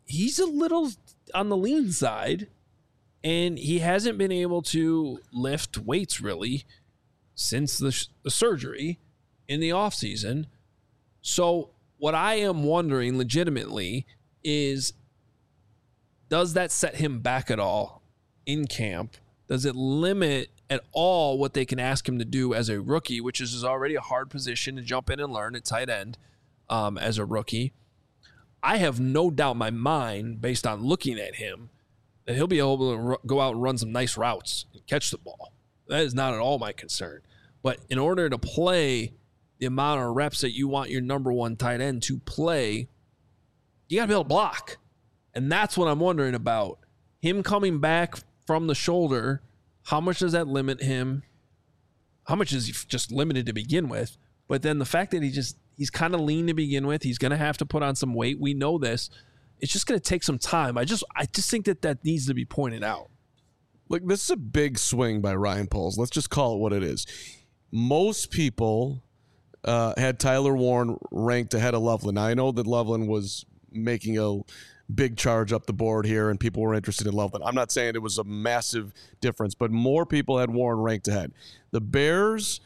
he's a little on the lean side, and he hasn't been able to lift weights really since the, the surgery in the offseason. So what I am wondering legitimately is, does that set him back at all in camp? Does it limit at all what they can ask him to do as a rookie, which is already a hard position to jump in and learn at tight end um, as a rookie? I have no doubt in my mind, based on looking at him, that he'll be able to r- go out and run some nice routes and catch the ball. That is not at all my concern. But in order to play the amount of reps that you want your number one tight end to play, you got to be able to block. And that's what I'm wondering about. Him coming back from the shoulder, how much does that limit him? How much is he just limited to begin with? But then the fact that he just, he's kind of lean to begin with, he's going to have to put on some weight. We know this. It's just going to take some time. I just I just think that that needs to be pointed out. Look, this is a big swing by Ryan Poles. Let's just call it what it is. Most people uh, had Tyler Warren ranked ahead of Loveland. Now, I know that Loveland was making a big charge up the board here and people were interested in Loveland. I'm not saying it was a massive difference, but more people had Warren ranked ahead. The Bears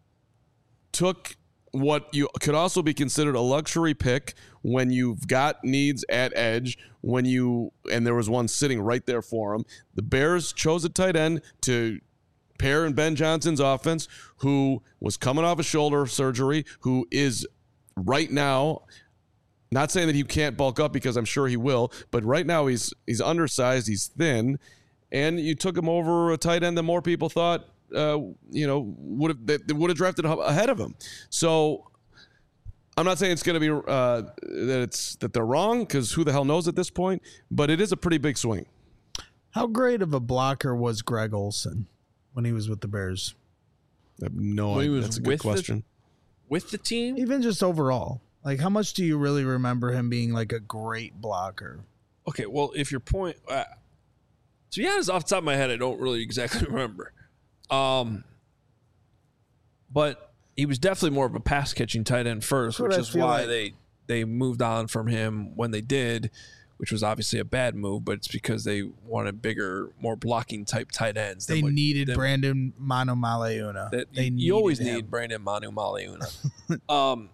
took what you could also be considered a luxury pick when you've got needs at edge, when you, and there was one sitting right there for him. The Bears chose a tight end to pair in Ben Johnson's offense, who was coming off a shoulder surgery, who is right now, not saying that he can't bulk up because I'm sure he will, but right now he's he's undersized, he's thin, and you took him over a tight end that more people thought Uh, you know, would have they, they would have drafted ahead of him. So I'm not saying it's going to be uh, that it's that they're wrong, because who the hell knows at this point. But it is a pretty big swing. How great of a blocker was Greg Olsen when he was with the Bears? I have no When he idea. was That's a good with the- question. With the team, Even just overall, like how much do you really remember him being like a great blocker? okay, well, if your point, uh, to be honest, off the top of my head, I don't really exactly remember. Um, but he was definitely more of a pass catching tight end first, That's what which I is feel why like. they they moved on from him when they did, which was obviously a bad move. But it's because they wanted bigger, more blocking type tight ends. than They what- needed than- Brandon Manu Maleuna. That They you, you always needed him. need Brandon Manu Maleuna. um,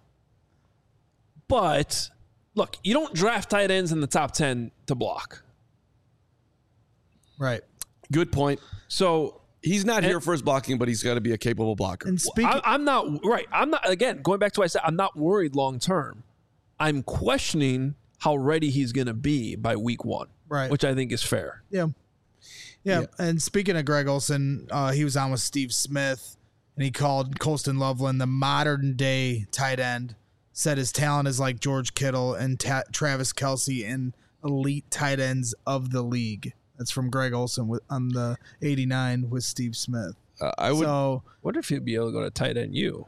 but look, you don't draft tight ends in the top ten to block. Right. Good point. So He's not And- here for his blocking, but he's got to be a capable blocker. And speaking, I, I'm not right. I'm not again going back to what I said. I'm not worried long term. I'm questioning how ready he's going to be by week one, right. which I think is fair. Yeah. yeah. Yeah. And speaking of Greg Olsen, uh, he was on with Steve Smith, and he called Colston Loveland the modern day tight end. Said his talent is like George Kittle and Ta- Travis Kelce and elite tight ends of the league. That's from Greg Olsen with, on the eighty-nine with Steve Smith. Uh, I would So What if he'd be able to go to tight end U?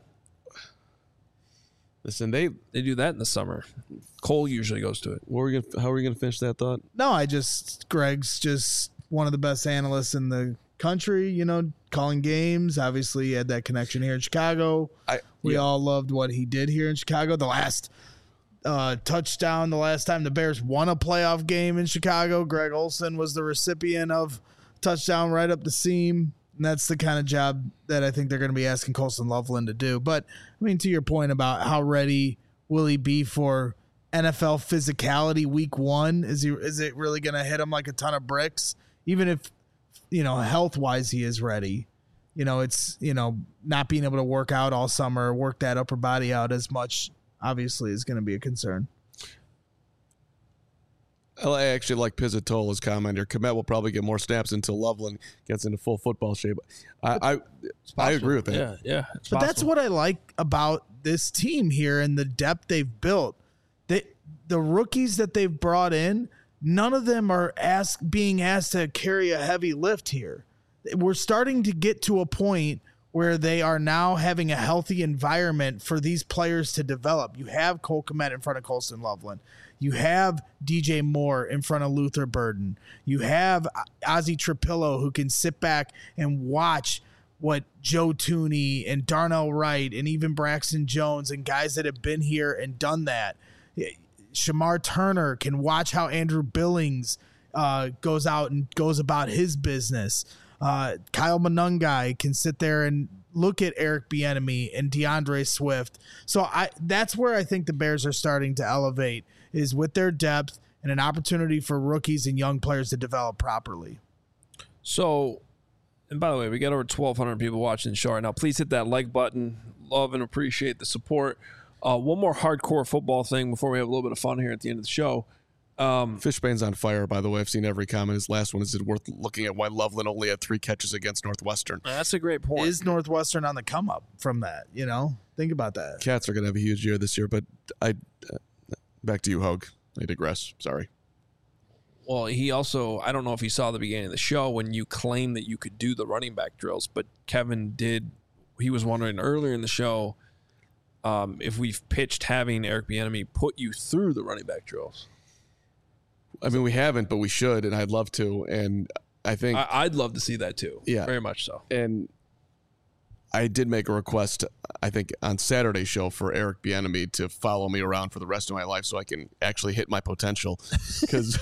listen. They They do that in the summer. Cole usually goes to it. what were we gonna, how are we going to finish that thought? no, I just Greg's just one of the best analysts in the country. You know, calling games. Obviously, he had that connection here in Chicago. I We yeah. all loved what he did here in Chicago. The last uh, touchdown, the last time the Bears won a playoff game in Chicago, Greg Olsen was the recipient of touchdown right up the seam. And that's the kind of job that I think they're going to be asking Colston Loveland to do. But, I mean, to your point about how ready will he be for N F L physicality week one, is he is it really going to hit him like a ton of bricks? Even if, you know, health-wise he is ready. You know, it's, you know, not being able to work out all summer, work that upper body out as much, obviously, is going to be a concern. I actually like Pizzatola's comment here. Komet will probably get more snaps until Loveland gets into full football shape. I I, I agree with that. Yeah, yeah. it's But that's possible. what I like about this team here and the depth they've built. They, the rookies that they've brought in, none of them are ask, being asked to carry a heavy lift here. We're starting to get to a point where they are now having a healthy environment for these players to develop. You have Cole Kmet in front of Colston Loveland. You have D J Moore in front of Luther Burden. You have Ozzie Trapillo, who can sit back and watch what Joe Tooney and Darnell Wright and even Braxton Jones and guys that have been here and done that. Shamar Turner can watch how Andrew Billings uh, goes out and goes about his business. Uh, Kyle Monungai can sit there and look at Eric Bieniemy and DeAndre Swift. So I that's where I think the Bears are starting to elevate, is with their depth and an opportunity for rookies and young players to develop properly. So, and by the way, we got over twelve hundred people watching the show right now. Please hit that like button. Love and appreciate the support. Uh, one more hardcore football thing before we have a little bit of fun here at the end of the show. Um, Fishbane's on fire, by the way. I've seen every comment. His last one is it worth looking at why Loveland only had three catches against Northwestern. That's a great point. Is Northwestern on the come up from that? You know, think about that. Cats are going to have a huge year this year, but I uh, back to you, Hogue. I digress. Sorry. Well, he also, I don't know if he saw the beginning of the show when you claimed that you could do the running back drills, but Kevin did. He was wondering earlier in the show um, if we've pitched having Eric Bieniemy put you through the running back drills. I mean, we haven't, but we should, and I'd love to. And I think I, I'd love to see that too. Yeah, very much so. And I did make a request, I think, on Saturday's show for Eric Bieniemy to follow me around for the rest of my life so I can actually hit my potential, because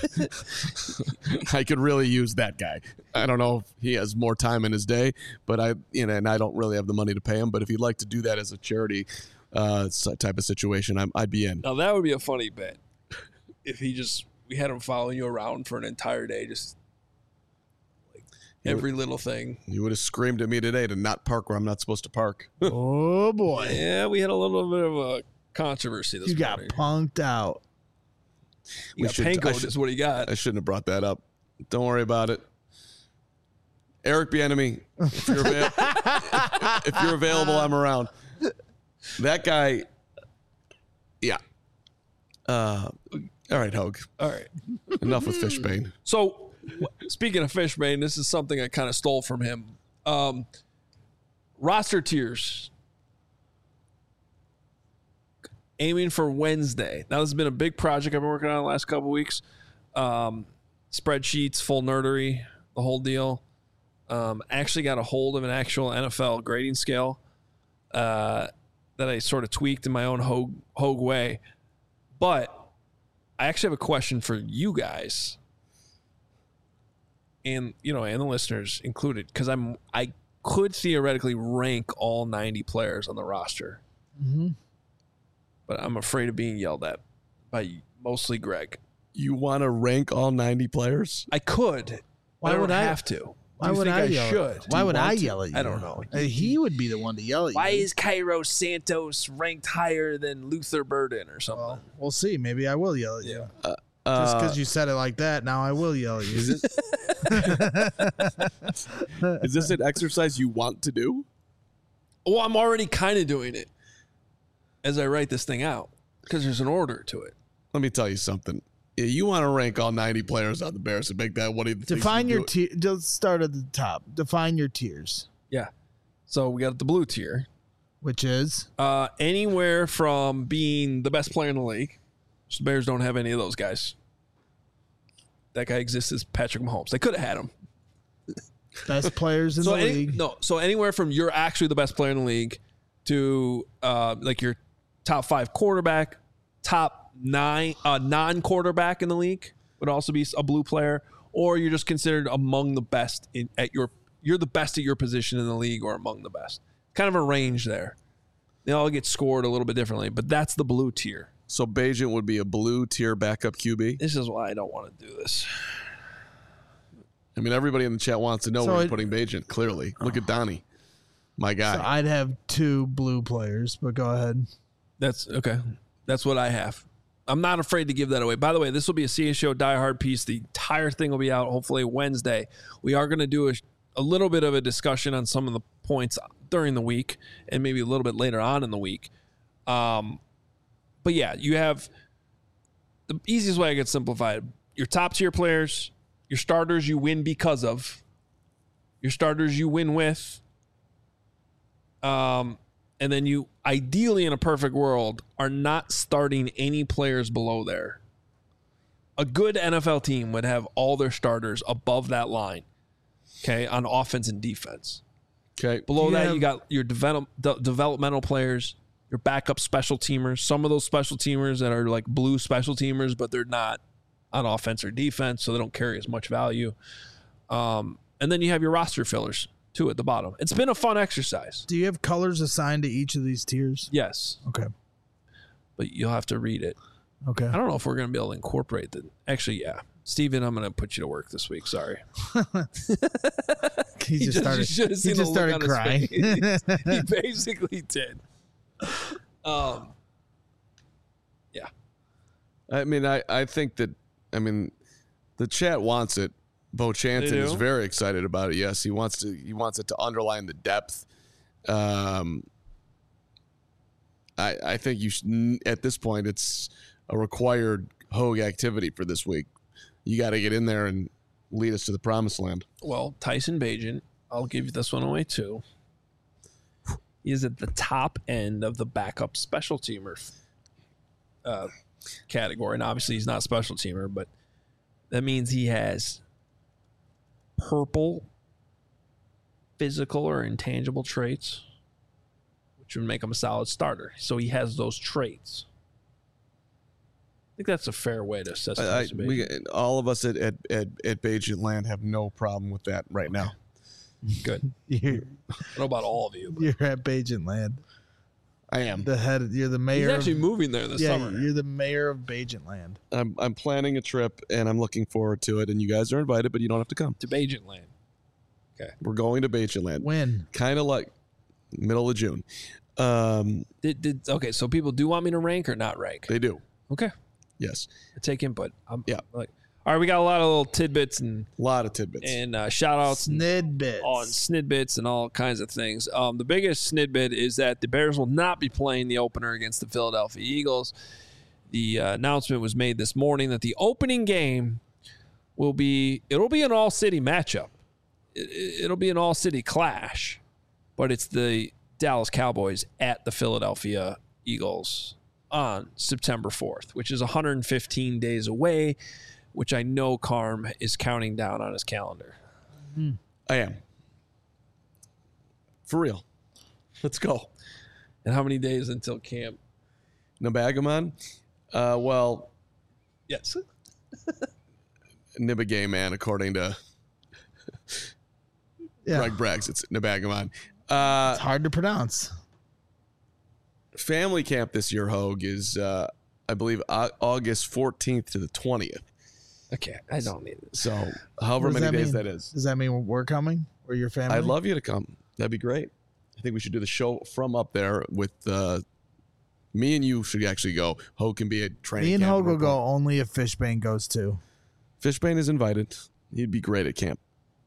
I could really use that guy. I don't know if he has more time in his day, but I, you know, and I don't really have the money to pay him. But if he'd like to do that as a charity uh, type of situation, I'm, I'd be in. Now that would be a funny bet if he just. We had him following you around for an entire day, just like every little thing. You would have screamed at me today to not park where I'm not supposed to park. Oh, boy. Yeah, we had a little bit of a controversy this you morning. You got punked out. You got pankoed is what he got. I shouldn't have brought that up. Don't worry about it. Eric Bieniemy, if you're, avail- if you're available, I'm around. That guy, yeah. Uh, all right, Hogue. All right. Enough with Fishbane. So, speaking of Fishbane, this is something I kind of stole from him. Um, roster tiers. Aiming for Wednesday. Now, this has been a big project I've been working on the last couple weeks. Um, spreadsheets, full nerdery, the whole deal. Um, actually got a hold of an actual N F L grading scale uh, that I sort of tweaked in my own Hogue, Hogue way. But I actually have a question for you guys, and you know, and the listeners included, because I'm I could theoretically rank all ninety players on the roster, mm-hmm. but I'm afraid of being yelled at by mostly Greg. You want to rank all ninety players? I could. Why I don't would I have to? Why Do you would think I, I yell? should? Why Do would you I want to? yell at you? I don't know. Uh, he would be the one to yell at you. Why is Cairo Santos ranked higher than Luther Burden or something? Well, we'll see. Maybe I will yell at you. Yeah. Uh, Just because you said it like that, now I will yell at you. Is, it, is this an exercise you want to do? Well, I'm already kind of doing it as I write this thing out because there's an order to it. Let me tell you something. Yeah, you want to rank all ninety players on the Bears and make that one of the things Define you your do. tier. Just start at the top. Define your tiers, Yeah. So we got the blue tier. which is Uh, anywhere from being the best player in the league. So the Bears don't have any of those guys. That guy exists as Patrick Mahomes. They could have had him. best players in so the any, league. No, so anywhere from you're actually the best player in the league to uh, like your top five quarterback, top nine uh, non-quarterback in the league would also be a blue player, or you're just considered among the best in at your you're the best at your position in the league or among the best. Kind of a range there. They all get scored a little bit differently, but that's the blue tier. So Bagent would be a blue tier backup Q B? This is why I don't want to do this. I mean, everybody in the chat wants to know So where you're it- putting Bagent, clearly. Look at Donnie, my guy. So I'd have two blue players, but go ahead. That's okay. That's what I have. I'm not afraid to give that away. By the way, this will be a C A Show Die Hard piece. The entire thing will be out hopefully Wednesday. We are going to do a, a little bit of a discussion on some of the points during the week and maybe a little bit later on in the week. Um, but yeah, you have the easiest way I could simplify it. Your top tier players, your starters you win because of, your starters you win with, um, and then you, ideally in a perfect world, are not starting any players below there. A good N F L team would have all their starters above that line, okay, on offense and defense. Okay. Below You that, have- you got your develop, de- developmental players, your backup special teamers. Some of those special teamers that are like blue special teamers, but they're not on offense or defense, so they don't carry as much value. Um, and then you have your roster fillers too at the bottom. It's been a fun exercise. Do you have colors assigned to each of these tiers? Yes. Okay. But you'll have to read it. Okay. I don't know if we're going to be able to incorporate that. Actually, yeah. Steven, I'm going to put you to work this week. Sorry. he just started, you should have seen he just the look started on crying. his face. He basically did. Um, yeah. I mean, I, I think that, I mean, the chat wants it. Bo Chanton is do? very excited about it. Yes, he wants to. He wants it to underline the depth. Um, I I think you should, at this point it's a required Hogue activity for this week. You got to get in there and lead us to the promised land. Well, Tyson Bagent, I'll give you this one away too. He is at the top end of the backup special teamer uh, category. And obviously he's not a special teamer, but that means he has purple physical or intangible traits, which would make him a solid starter. So he has those traits. I think that's a fair way to assess I, I, Tyson we, Bagent. all of us at at at, at Bagent Land have no problem with that right now. Good. You're, I don't know about all of you. But you're at Bagent Land. I am. The head. You're the he's mayor. actually of, moving there this yeah, summer. you're the mayor of Bagent Land. I'm I'm planning a trip and I'm looking forward to it. And you guys are invited, but you don't have to come. To Bagent Land. Okay. We're going to Bagent Land. When? Kind of like middle of June. Um, Did, did okay? So people do want me to rank or not rank? they do. Okay. Yes. I take input. I'm, Yeah. I'm like, all right, we got a lot of little tidbits and A lot of tidbits. and uh, shout outs and Snidbits. on snidbits and all kinds of things. Um, the biggest snidbit is that the Bears will not be playing the opener against the Philadelphia Eagles. The uh, announcement was made this morning that the opening game will be it'll be an all city matchup. It, it'll be an all city clash, but it's the Dallas Cowboys at the Philadelphia Eagles on September fourth, which is one hundred fifteen days away, which I know Carm is counting down on his calendar. I am. For real. Let's go. And how many days until camp? Nabagaman? Uh, well, Yes. Nibagay, man, according to Yeah. Greg Braggs. It's Nabagaman. Uh, It's hard to pronounce. family camp this year, Hogue, is, uh, I believe, Au- August fourteenth to the twentieth. Okay, I don't need it. So, however What does many that days mean? that is. Does that mean we're coming? Or your family? I'd love you to come. That'd be great. I think we should do the show from up there with uh, me and you should actually go. Hogue can be a training Me and camp Hogue will report. go only if Fishbane goes too. Fishbane is invited. He'd be great at camp.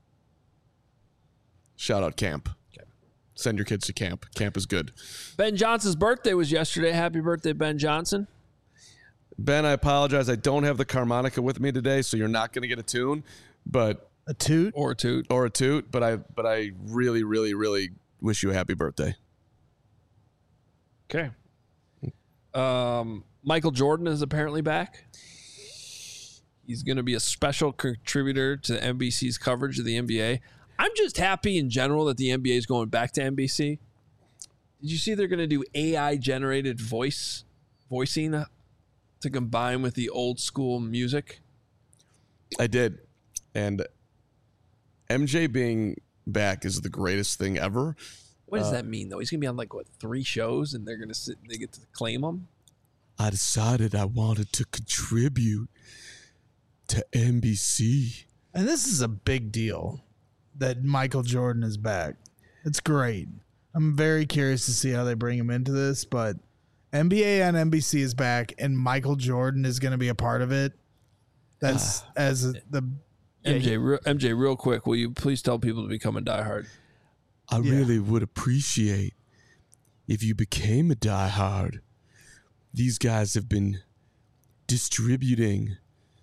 Shout out camp. Okay. Send your kids to camp. Camp is good. Ben Johnson's birthday was yesterday. Happy birthday, Ben Johnson. Ben, I apologize. I don't have the harmonica with me today, so you're not going to get a tune, but A toot? Or two. or a toot. But I, but I really, really, really wish you a happy birthday. Okay. Um, Michael Jordan is apparently back. He's going to be a special contributor to N B C's coverage of the N B A. I'm just happy in general that the N B A is going back to N B C. Did you see they're going to do A I generated voice voicing to combine with the old school music? I did, and M J being back is the greatest thing ever. What does that mean though? He's going to be on like what three shows, and they're going to sit. They get to claim him. I decided I wanted to contribute to N B C. And this is a big deal that Michael Jordan is back. It's great. I'm very curious to see how they bring him into this, but N B A on N B C is back, and Michael Jordan is going to be a part of it. That's as the M J, re- M J, real quick, will you please tell people to become a diehard? I Yeah. really would appreciate if you became a diehard. These guys have been distributing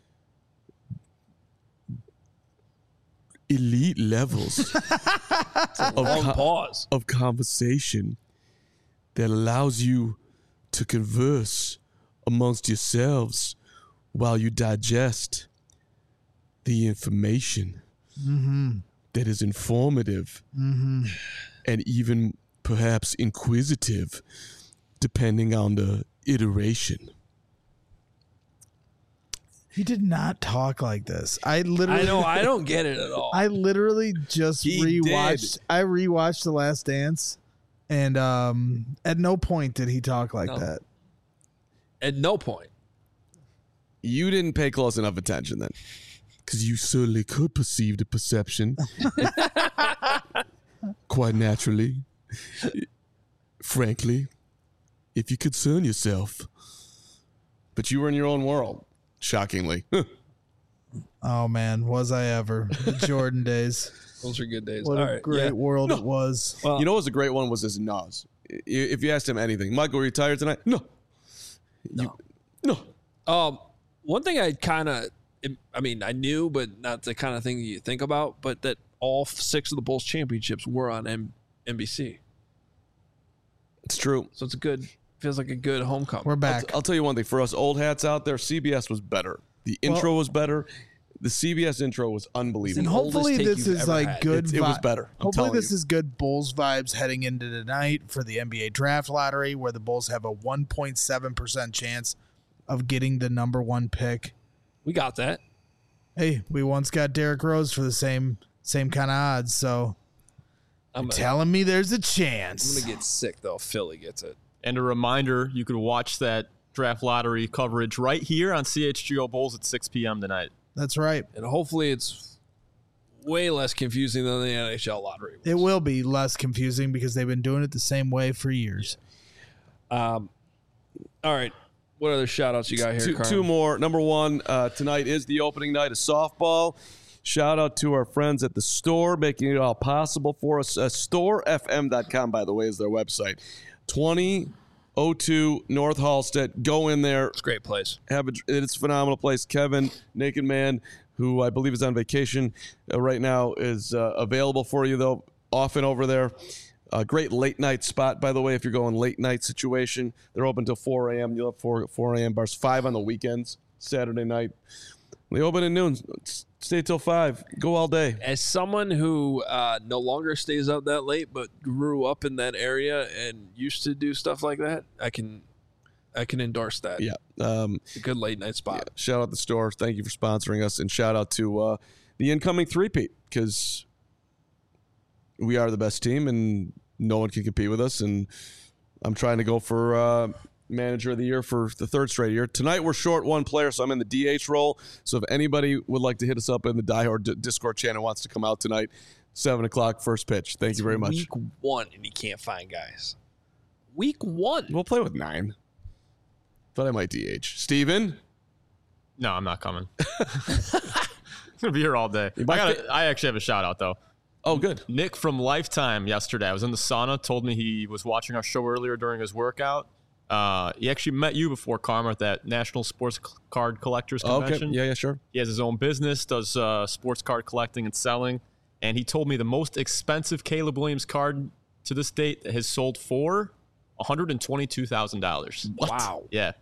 elite levels of, Long co- pause. of conversation that allows you to converse amongst yourselves while you digest the information that is informative and even perhaps inquisitive depending on the iteration. He did not talk like this. I literally I know. I don't get it at all. I literally just He rewatched. did. I rewatched The Last Dance, and um, at no point did he talk like No. that. At no point. You didn't pay close enough attention then, because you certainly could perceive the perception quite naturally. Frankly, if you concern yourself. But you were in your own world, shockingly. Oh man, was I ever the Jordan days? Those are good days. What All a right. great yeah. world it was. Well, You know what was a great one was this Nas. I- If you asked him anything, Michael, are you tired tonight? No. You, no. Um, one thing I kind of, I mean, I knew, but not the kind of thing you think about, but that all six of the Bulls championships were on M- NBC. It's true. So it's a good, feels like a good homecoming. We're I'll, back. t- I'll tell you one thing. For us old hats out there, C B S was better. The intro Well- was better. The C B S intro was and unbelievable. oldest hopefully take this you've is ever like had. good. It, it was vi- better. I'm Hopefully telling this you. is good Bulls vibes heading into tonight for the N B A draft lottery, where the Bulls have a one point seven percent chance of getting the number one pick. We got that. Hey, we once got Derrick Rose for the same same kind of odds, so I'm you're gonna, telling me there's a I'm chance. gonna get sick though. if Philly gets it. And a reminder, you could watch that draft lottery coverage right here on C H G O Bulls at six p.m. tonight. That's right. And hopefully it's way less confusing than the N H L lottery. was. It will be less confusing because they've been doing it the same way for years. Um, all right. What other shout outs you got here, two, Carl? two more. Number one, uh, tonight is the opening night of softball. Shout out to our friends at the store making it all possible for us. Uh, store f m dot com, by the way, is their website. twenty oh two North Halstead. Go in there. It's a great place. Have a, it's a phenomenal place. Kevin, Naked Man, who I believe is on vacation uh, right now, is uh, available for you, though, often over there. A great late night spot, by the way, if you're going late night situation. They're open till four a.m. You'll have four, four a.m. bars, five on the weekends, Saturday night. They open at noon. Stay till five. Go all day. As someone who uh, no longer stays up that late, but grew up in that area and used to do stuff like that, I can, I can endorse that. Yeah. Um, It's a good late night spot. yeah. Shout out the store. Thank you for sponsoring us. And shout out to uh, the incoming three-peat, because we are the best team and no one can compete with us. And I'm trying to go for uh, manager of the year for the third straight year. Tonight we're short one player, so I'm in the D H role. So if anybody would like to hit us up in the Die Hard D- Discord channel, wants to come out tonight, seven o'clock, first pitch. Thank you very much. Week one, and you can't find guys. Week one. We'll play with nine. Thought I might D H. Steven? No, I'm not coming. I'm gonna be here all day. I, might gotta, I actually have a shout out though. Oh, good. Nick from Lifetime yesterday. I was in the sauna. Told me he was watching our show earlier during his workout. Uh, he actually met you before, Karma, at that National Sports C- Card Collectors Okay. Convention. Yeah, yeah, sure. He has his own business, does uh, sports card collecting and selling. And he told me the most expensive Caleb Williams card to this date has sold for one hundred twenty-two thousand dollars. Wow. Yeah.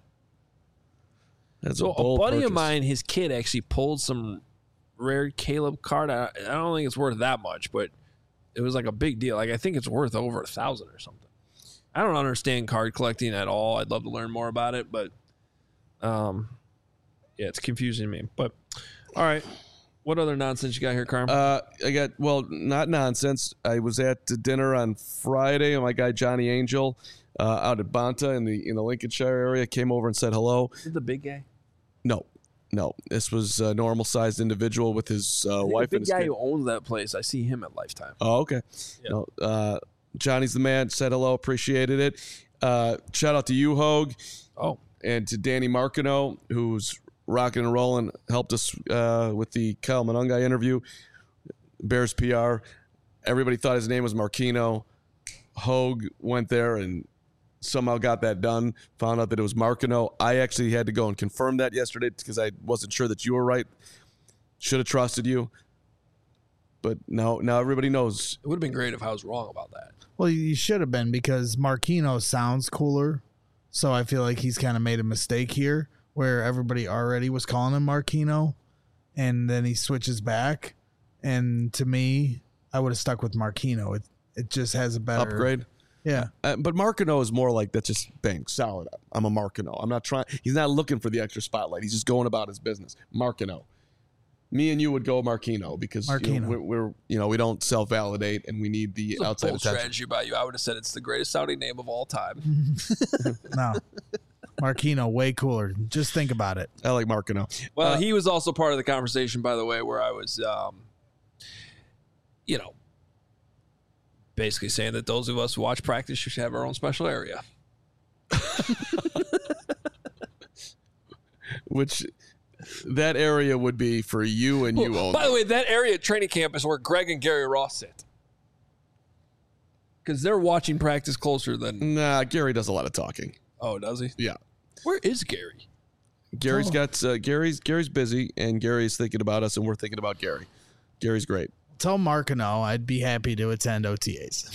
That's So a, a, bold buddy of purchase. mine, his kid actually pulled some rare Caleb card. I, I don't think it's worth that much, but it was like a big deal. Like I think it's worth over a thousand or something. I don't understand card collecting at all. I'd love to learn more about it, but um, yeah, it's confusing me. But all right, what other nonsense you got here, Carm? Uh, I got, well, not nonsense. I was at dinner on Friday, and my guy Johnny Angel uh, out at Bonta in the in the Lincolnshire area came over and said hello. Is it the big guy? No, no. This was a normal sized individual with his uh, I think wife the and big his guy kid. who owns that place. I see him at Lifetime. Oh, okay. Yeah. No, uh, Johnny's the man. Said hello, appreciated it. Uh, shout out to you, Hogue, Oh, and to Danny Marcano, who's rocking and rolling, helped us uh, with the Kyle Monungai interview. Bears P R. Everybody thought his name was Marquino. Hogue went there and somehow got that done. Found out that it was Marcano. I actually had to go and confirm that yesterday because I wasn't sure that you were right. Should have trusted you. But now, now everybody knows. it would have been great if I was wrong about that. Well, you should have been because Marquino sounds cooler. So I feel like he's kind of made a mistake here where everybody already was calling him Marquino and then he switches back. And to me, I would have stuck with Marquino. It it just has a better Upgrade. Yeah. Uh, but Marcano is more like, that's just bang, solid. I'm a Marcano. I'm not trying. He's not looking for the extra spotlight. He's just going about his business. Marcano. Me and you would go Marquino because you know, Marquino. we're, we're you know we don't self validate and we need the It's a outside bold attention. strategy by you. I would have said it's the greatest sounding name of all time. No. Marquino, way cooler. Just think about it. I like Marcano. Well, Uh, he was also part of the conversation, by the way, where I was, um, you know, basically saying that those of us who watch practice should have our own special area. Which that area would be for you and you Well, only. by the way, that area at training camp is where Greg and Gary Ross sit. Because they're watching practice closer than. Nah, Gary does a lot of talking. Oh, does he? Yeah. Where is Gary? Gary's Oh. got uh, Gary's Gary's busy and Gary's thinking about us and we're thinking about Gary. Gary's great. Tell Marcano I'd be happy to attend O T As.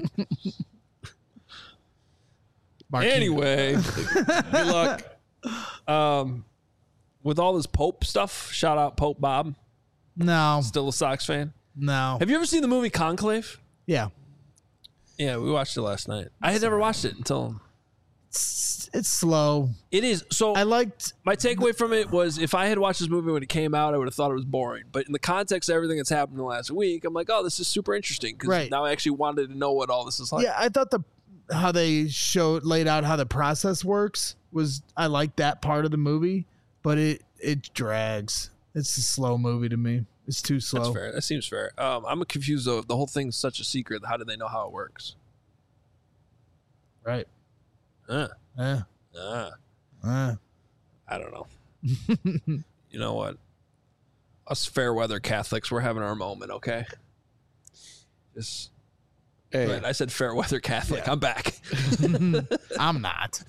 Marquino. Anyway, Good luck. um, with all this Pope stuff, shout out Pope Bob. No. Still a Sox fan. No. Have you ever seen the movie Conclave? Yeah. Yeah, we watched it last night. I had never watched it until It's, it's slow. it is. So I liked. my takeaway from it was if I had watched this movie when it came out, I would have thought it was boring. But in the context of everything that's happened in the last week, I'm like, oh, this is super interesting because Right. now I actually wanted to know what all this is like. Yeah, I thought the how they showed laid out how the process works was I liked that part of the movie, but it it drags. It's a slow movie to me. It's too slow. That's fair. That seems fair. Um, I'm confused though. The whole thing's such a secret. How do they know how it works? Right. Uh, Yeah. uh, Uh. I don't know. You know what? Us fair weather Catholics, we're having our moment, okay? Just Hey, right, I said fair weather Catholic. I'm back. I'm not.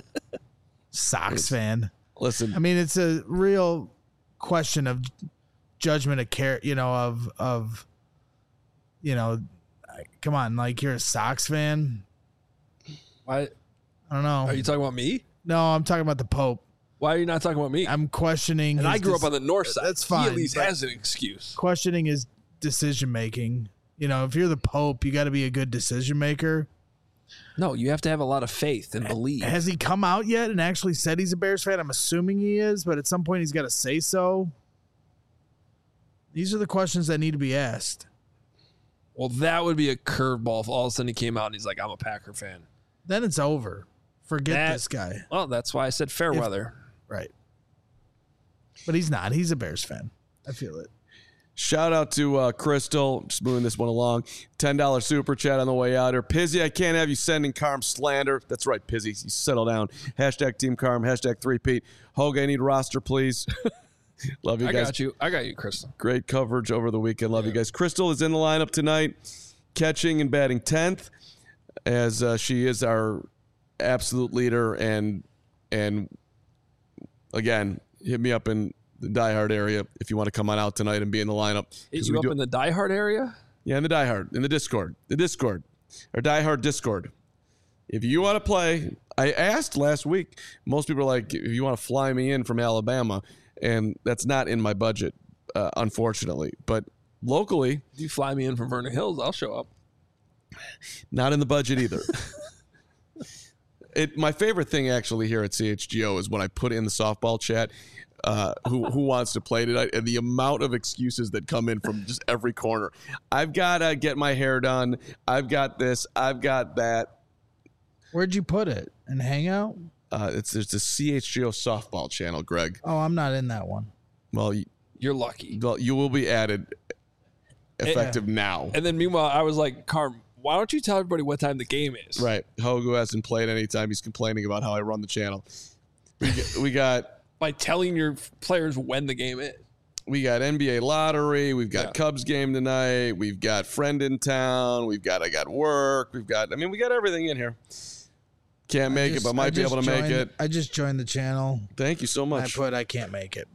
Sox fan. listen, I mean, it's a real question of judgment of care, you know, of of you know, come on, like you're a Sox fan. Why I don't know. are you talking about me? No, I'm talking about the Pope. Why are you not talking about me? I'm questioning. and his I grew dec- up on the north side. That's He fine. at least but has an excuse. questioning his decision making. You know, if you're the Pope, you got to be a good decision maker. No, you have to have a lot of faith and believe. Has he come out yet and actually said he's a Bears fan? I'm assuming he is, but at some point he's got to say so. These are the questions that need to be asked. Well, that would be a curveball if all of a sudden he came out and he's like, I'm a Packer fan. Then it's over. Forget That- this guy. Well, that's why I said fair If- weather. Right. But he's not. He's a Bears fan. I feel it. shout out to uh, Crystal, just moving this one along. ten dollars super chat on the way out here. Pizzy, I can't have you sending Carm slander. That's right, Pizzy. You settle down. Hashtag Team Carm. Hashtag three-peat. Hogue, I need roster, please. Love you I guys. got you. I got you, Crystal. Great coverage over the weekend. Love you guys. Crystal is in the lineup tonight, catching and batting tenth, as uh, she is our absolute leader. And and again, hit me up in the Die Hard area if you want to come on out tonight and be in the lineup. Is 'Cause you we up do- in the Die Hard area? yeah, in the Die Hard, in the Discord, the Discord, or Die Hard Discord. If you want to play, I asked last week. Most people are like, if you want to fly me in from Alabama, and that's not in my budget, uh, unfortunately. But locally, If you fly me in from Vernon Hills, I'll show up. not in the budget either. It my favorite thing actually here at C H G O is when I put in the softball chat. Uh, who who wants to play tonight? And the amount of excuses that come in from just every corner. I've got to get my hair done. I've got this. I've got that. Where'd you put it? In Hangout? Uh, it's there's the C H G O softball channel, Greg. Oh, I'm not in that one. Well, you, You're lucky. well, you will be added effective now. And then meanwhile, I was like, Carm, why don't you tell everybody what time the game is? Right. Hogu hasn't played anytime. He's complaining about how I run the channel. We got, we got By telling your players when the game is. we got N B A lottery. We've got Yeah. Cubs game tonight. We've got friend in town. We've got I got work. We've got I mean we got everything in here. Can't make Just- it, but I might be just able to make joined- it. I just joined the channel. Thank you so I much. put I can't make it.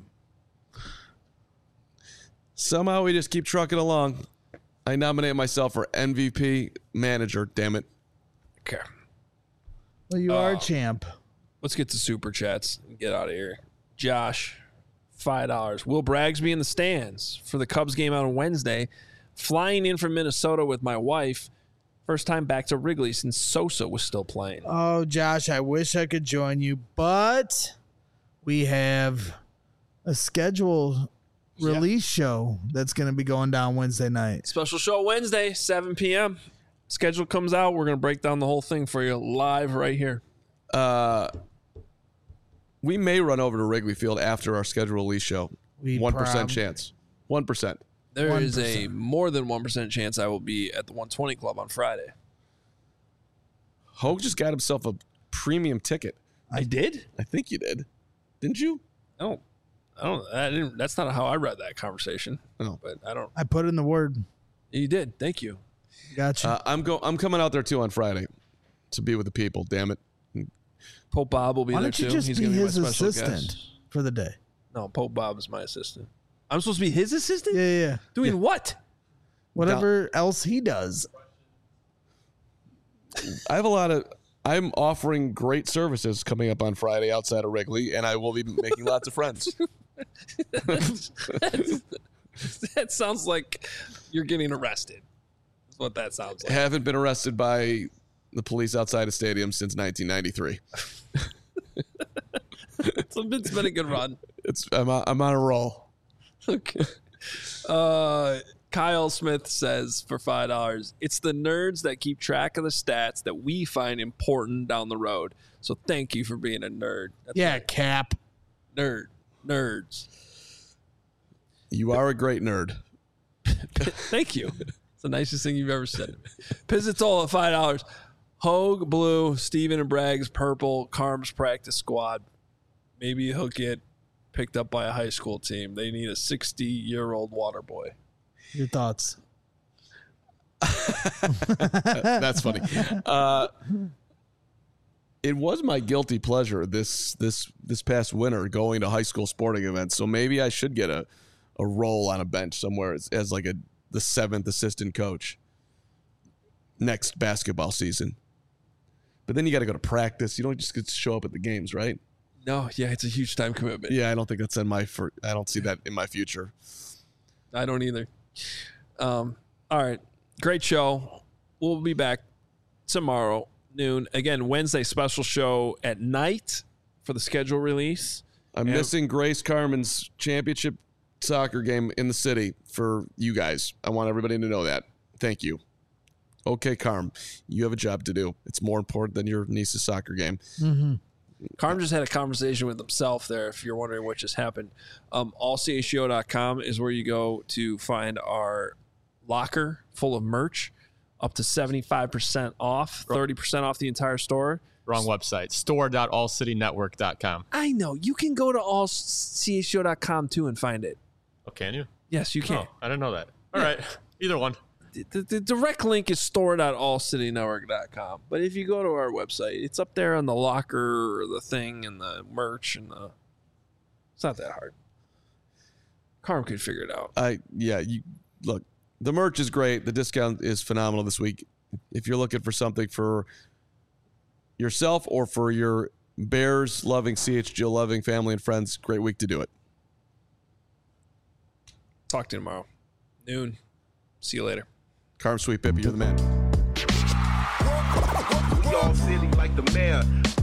Somehow we just keep trucking along. I nominate myself for M V P manager. Damn it. Okay. Well, you are Oh. a champ. Let's get to super chats and get out of here. Josh, five dollars. Will Braggs be in the stands for the Cubs game on Wednesday? Flying in from Minnesota with my wife. First time back to Wrigley since Sosa was still playing. Oh, Josh, I wish I could join you, but we have a schedule release show that's going to be going down Wednesday night. Special show Wednesday, seven p.m. Schedule comes out. We're going to break down the whole thing for you live right here. Uh, we may run over to Wrigley Field after our schedule release show. We one percent prob- chance. One percent. There one is percent. a more than one percent chance I will be at the one twenty Club on Friday. Hogue just got himself a premium ticket. I did? I think you did. Didn't you? I don't. I don't. I didn't. That's not how I read that conversation. Oh. But I don't. I put in the word. You did. Thank you. Gotcha. Uh, I'm go. I'm coming out there too on Friday to be with the people. Damn it. Pope Bob will be Why there don't you too. just He's be gonna his be my special assistant guest. for the day? No, Pope Bob is my assistant. I'm supposed to be his assistant? Yeah, yeah, yeah. Doing what? Whatever else he does. I have a lot of. I'm offering great services coming up on Friday outside of Wrigley, and I will be making lots of friends. That sounds like you're getting arrested. That's what that sounds like. Haven't been arrested by the police outside of stadiums since nineteen ninety-three. So it's been a good run. It's I'm on, I'm on a roll. Okay. Uh, Kyle Smith says for five dollars, it's the nerds that keep track of the stats that we find important down the road. So thank you for being a nerd. That's Yeah, right. Cap. Nerd. Nerds. You are a great nerd. Thank you. It's the nicest thing you've ever said. Pizzatol at five dollars. Hogue blue, Steven and Bragg's purple, Carm's practice squad. Maybe he'll get picked up by a high school team. They need a sixty-year-old water boy. Your thoughts? That's funny. Uh, it was my guilty pleasure this this this past winter going to high school sporting events. So maybe I should get a, a role on a bench somewhere as, as like a the seventh assistant coach next basketball season. But then you got to go to practice. You don't just get to show up at the games, right? No, yeah, it's a huge time commitment. Yeah, I don't think that's in my. For, I don't see that in my future. I don't either. Um, all right. Great show. We'll be back tomorrow, noon. Again, Wednesday special show at night for the schedule release. I'm And- missing Grace Carmen's championship soccer game in the city for you guys. I want everybody to know that. Thank you. Okay, Carm, you have a job to do. It's more important than your niece's soccer game. Mm-hmm. Carm just had a conversation with himself there, if you're wondering what just happened. Um, all c h g o dot com is where you go to find our locker full of merch, up to seventy-five percent off, thirty percent off the entire store. Wrong website. store dot all city network dot com. I know. You can go to all c h g o dot com too and find it. Oh, can you? Yes, you can. Oh, I didn't know that. All right. Either one. The, the, the direct link is store dot all city network dot com. But if you go to our website, it's up there on the locker or the thing and the merch and the. It's not that hard. Carm could figure it out. I yeah, you look. The merch is great. The discount is phenomenal this week. If you're looking for something for yourself or for your Bears loving, C H G O loving family and friends, great week to do it. Talk to you tomorrow. Noon. See you later. Carm Sweet Pippi, you're the man. We all silly like the mayor.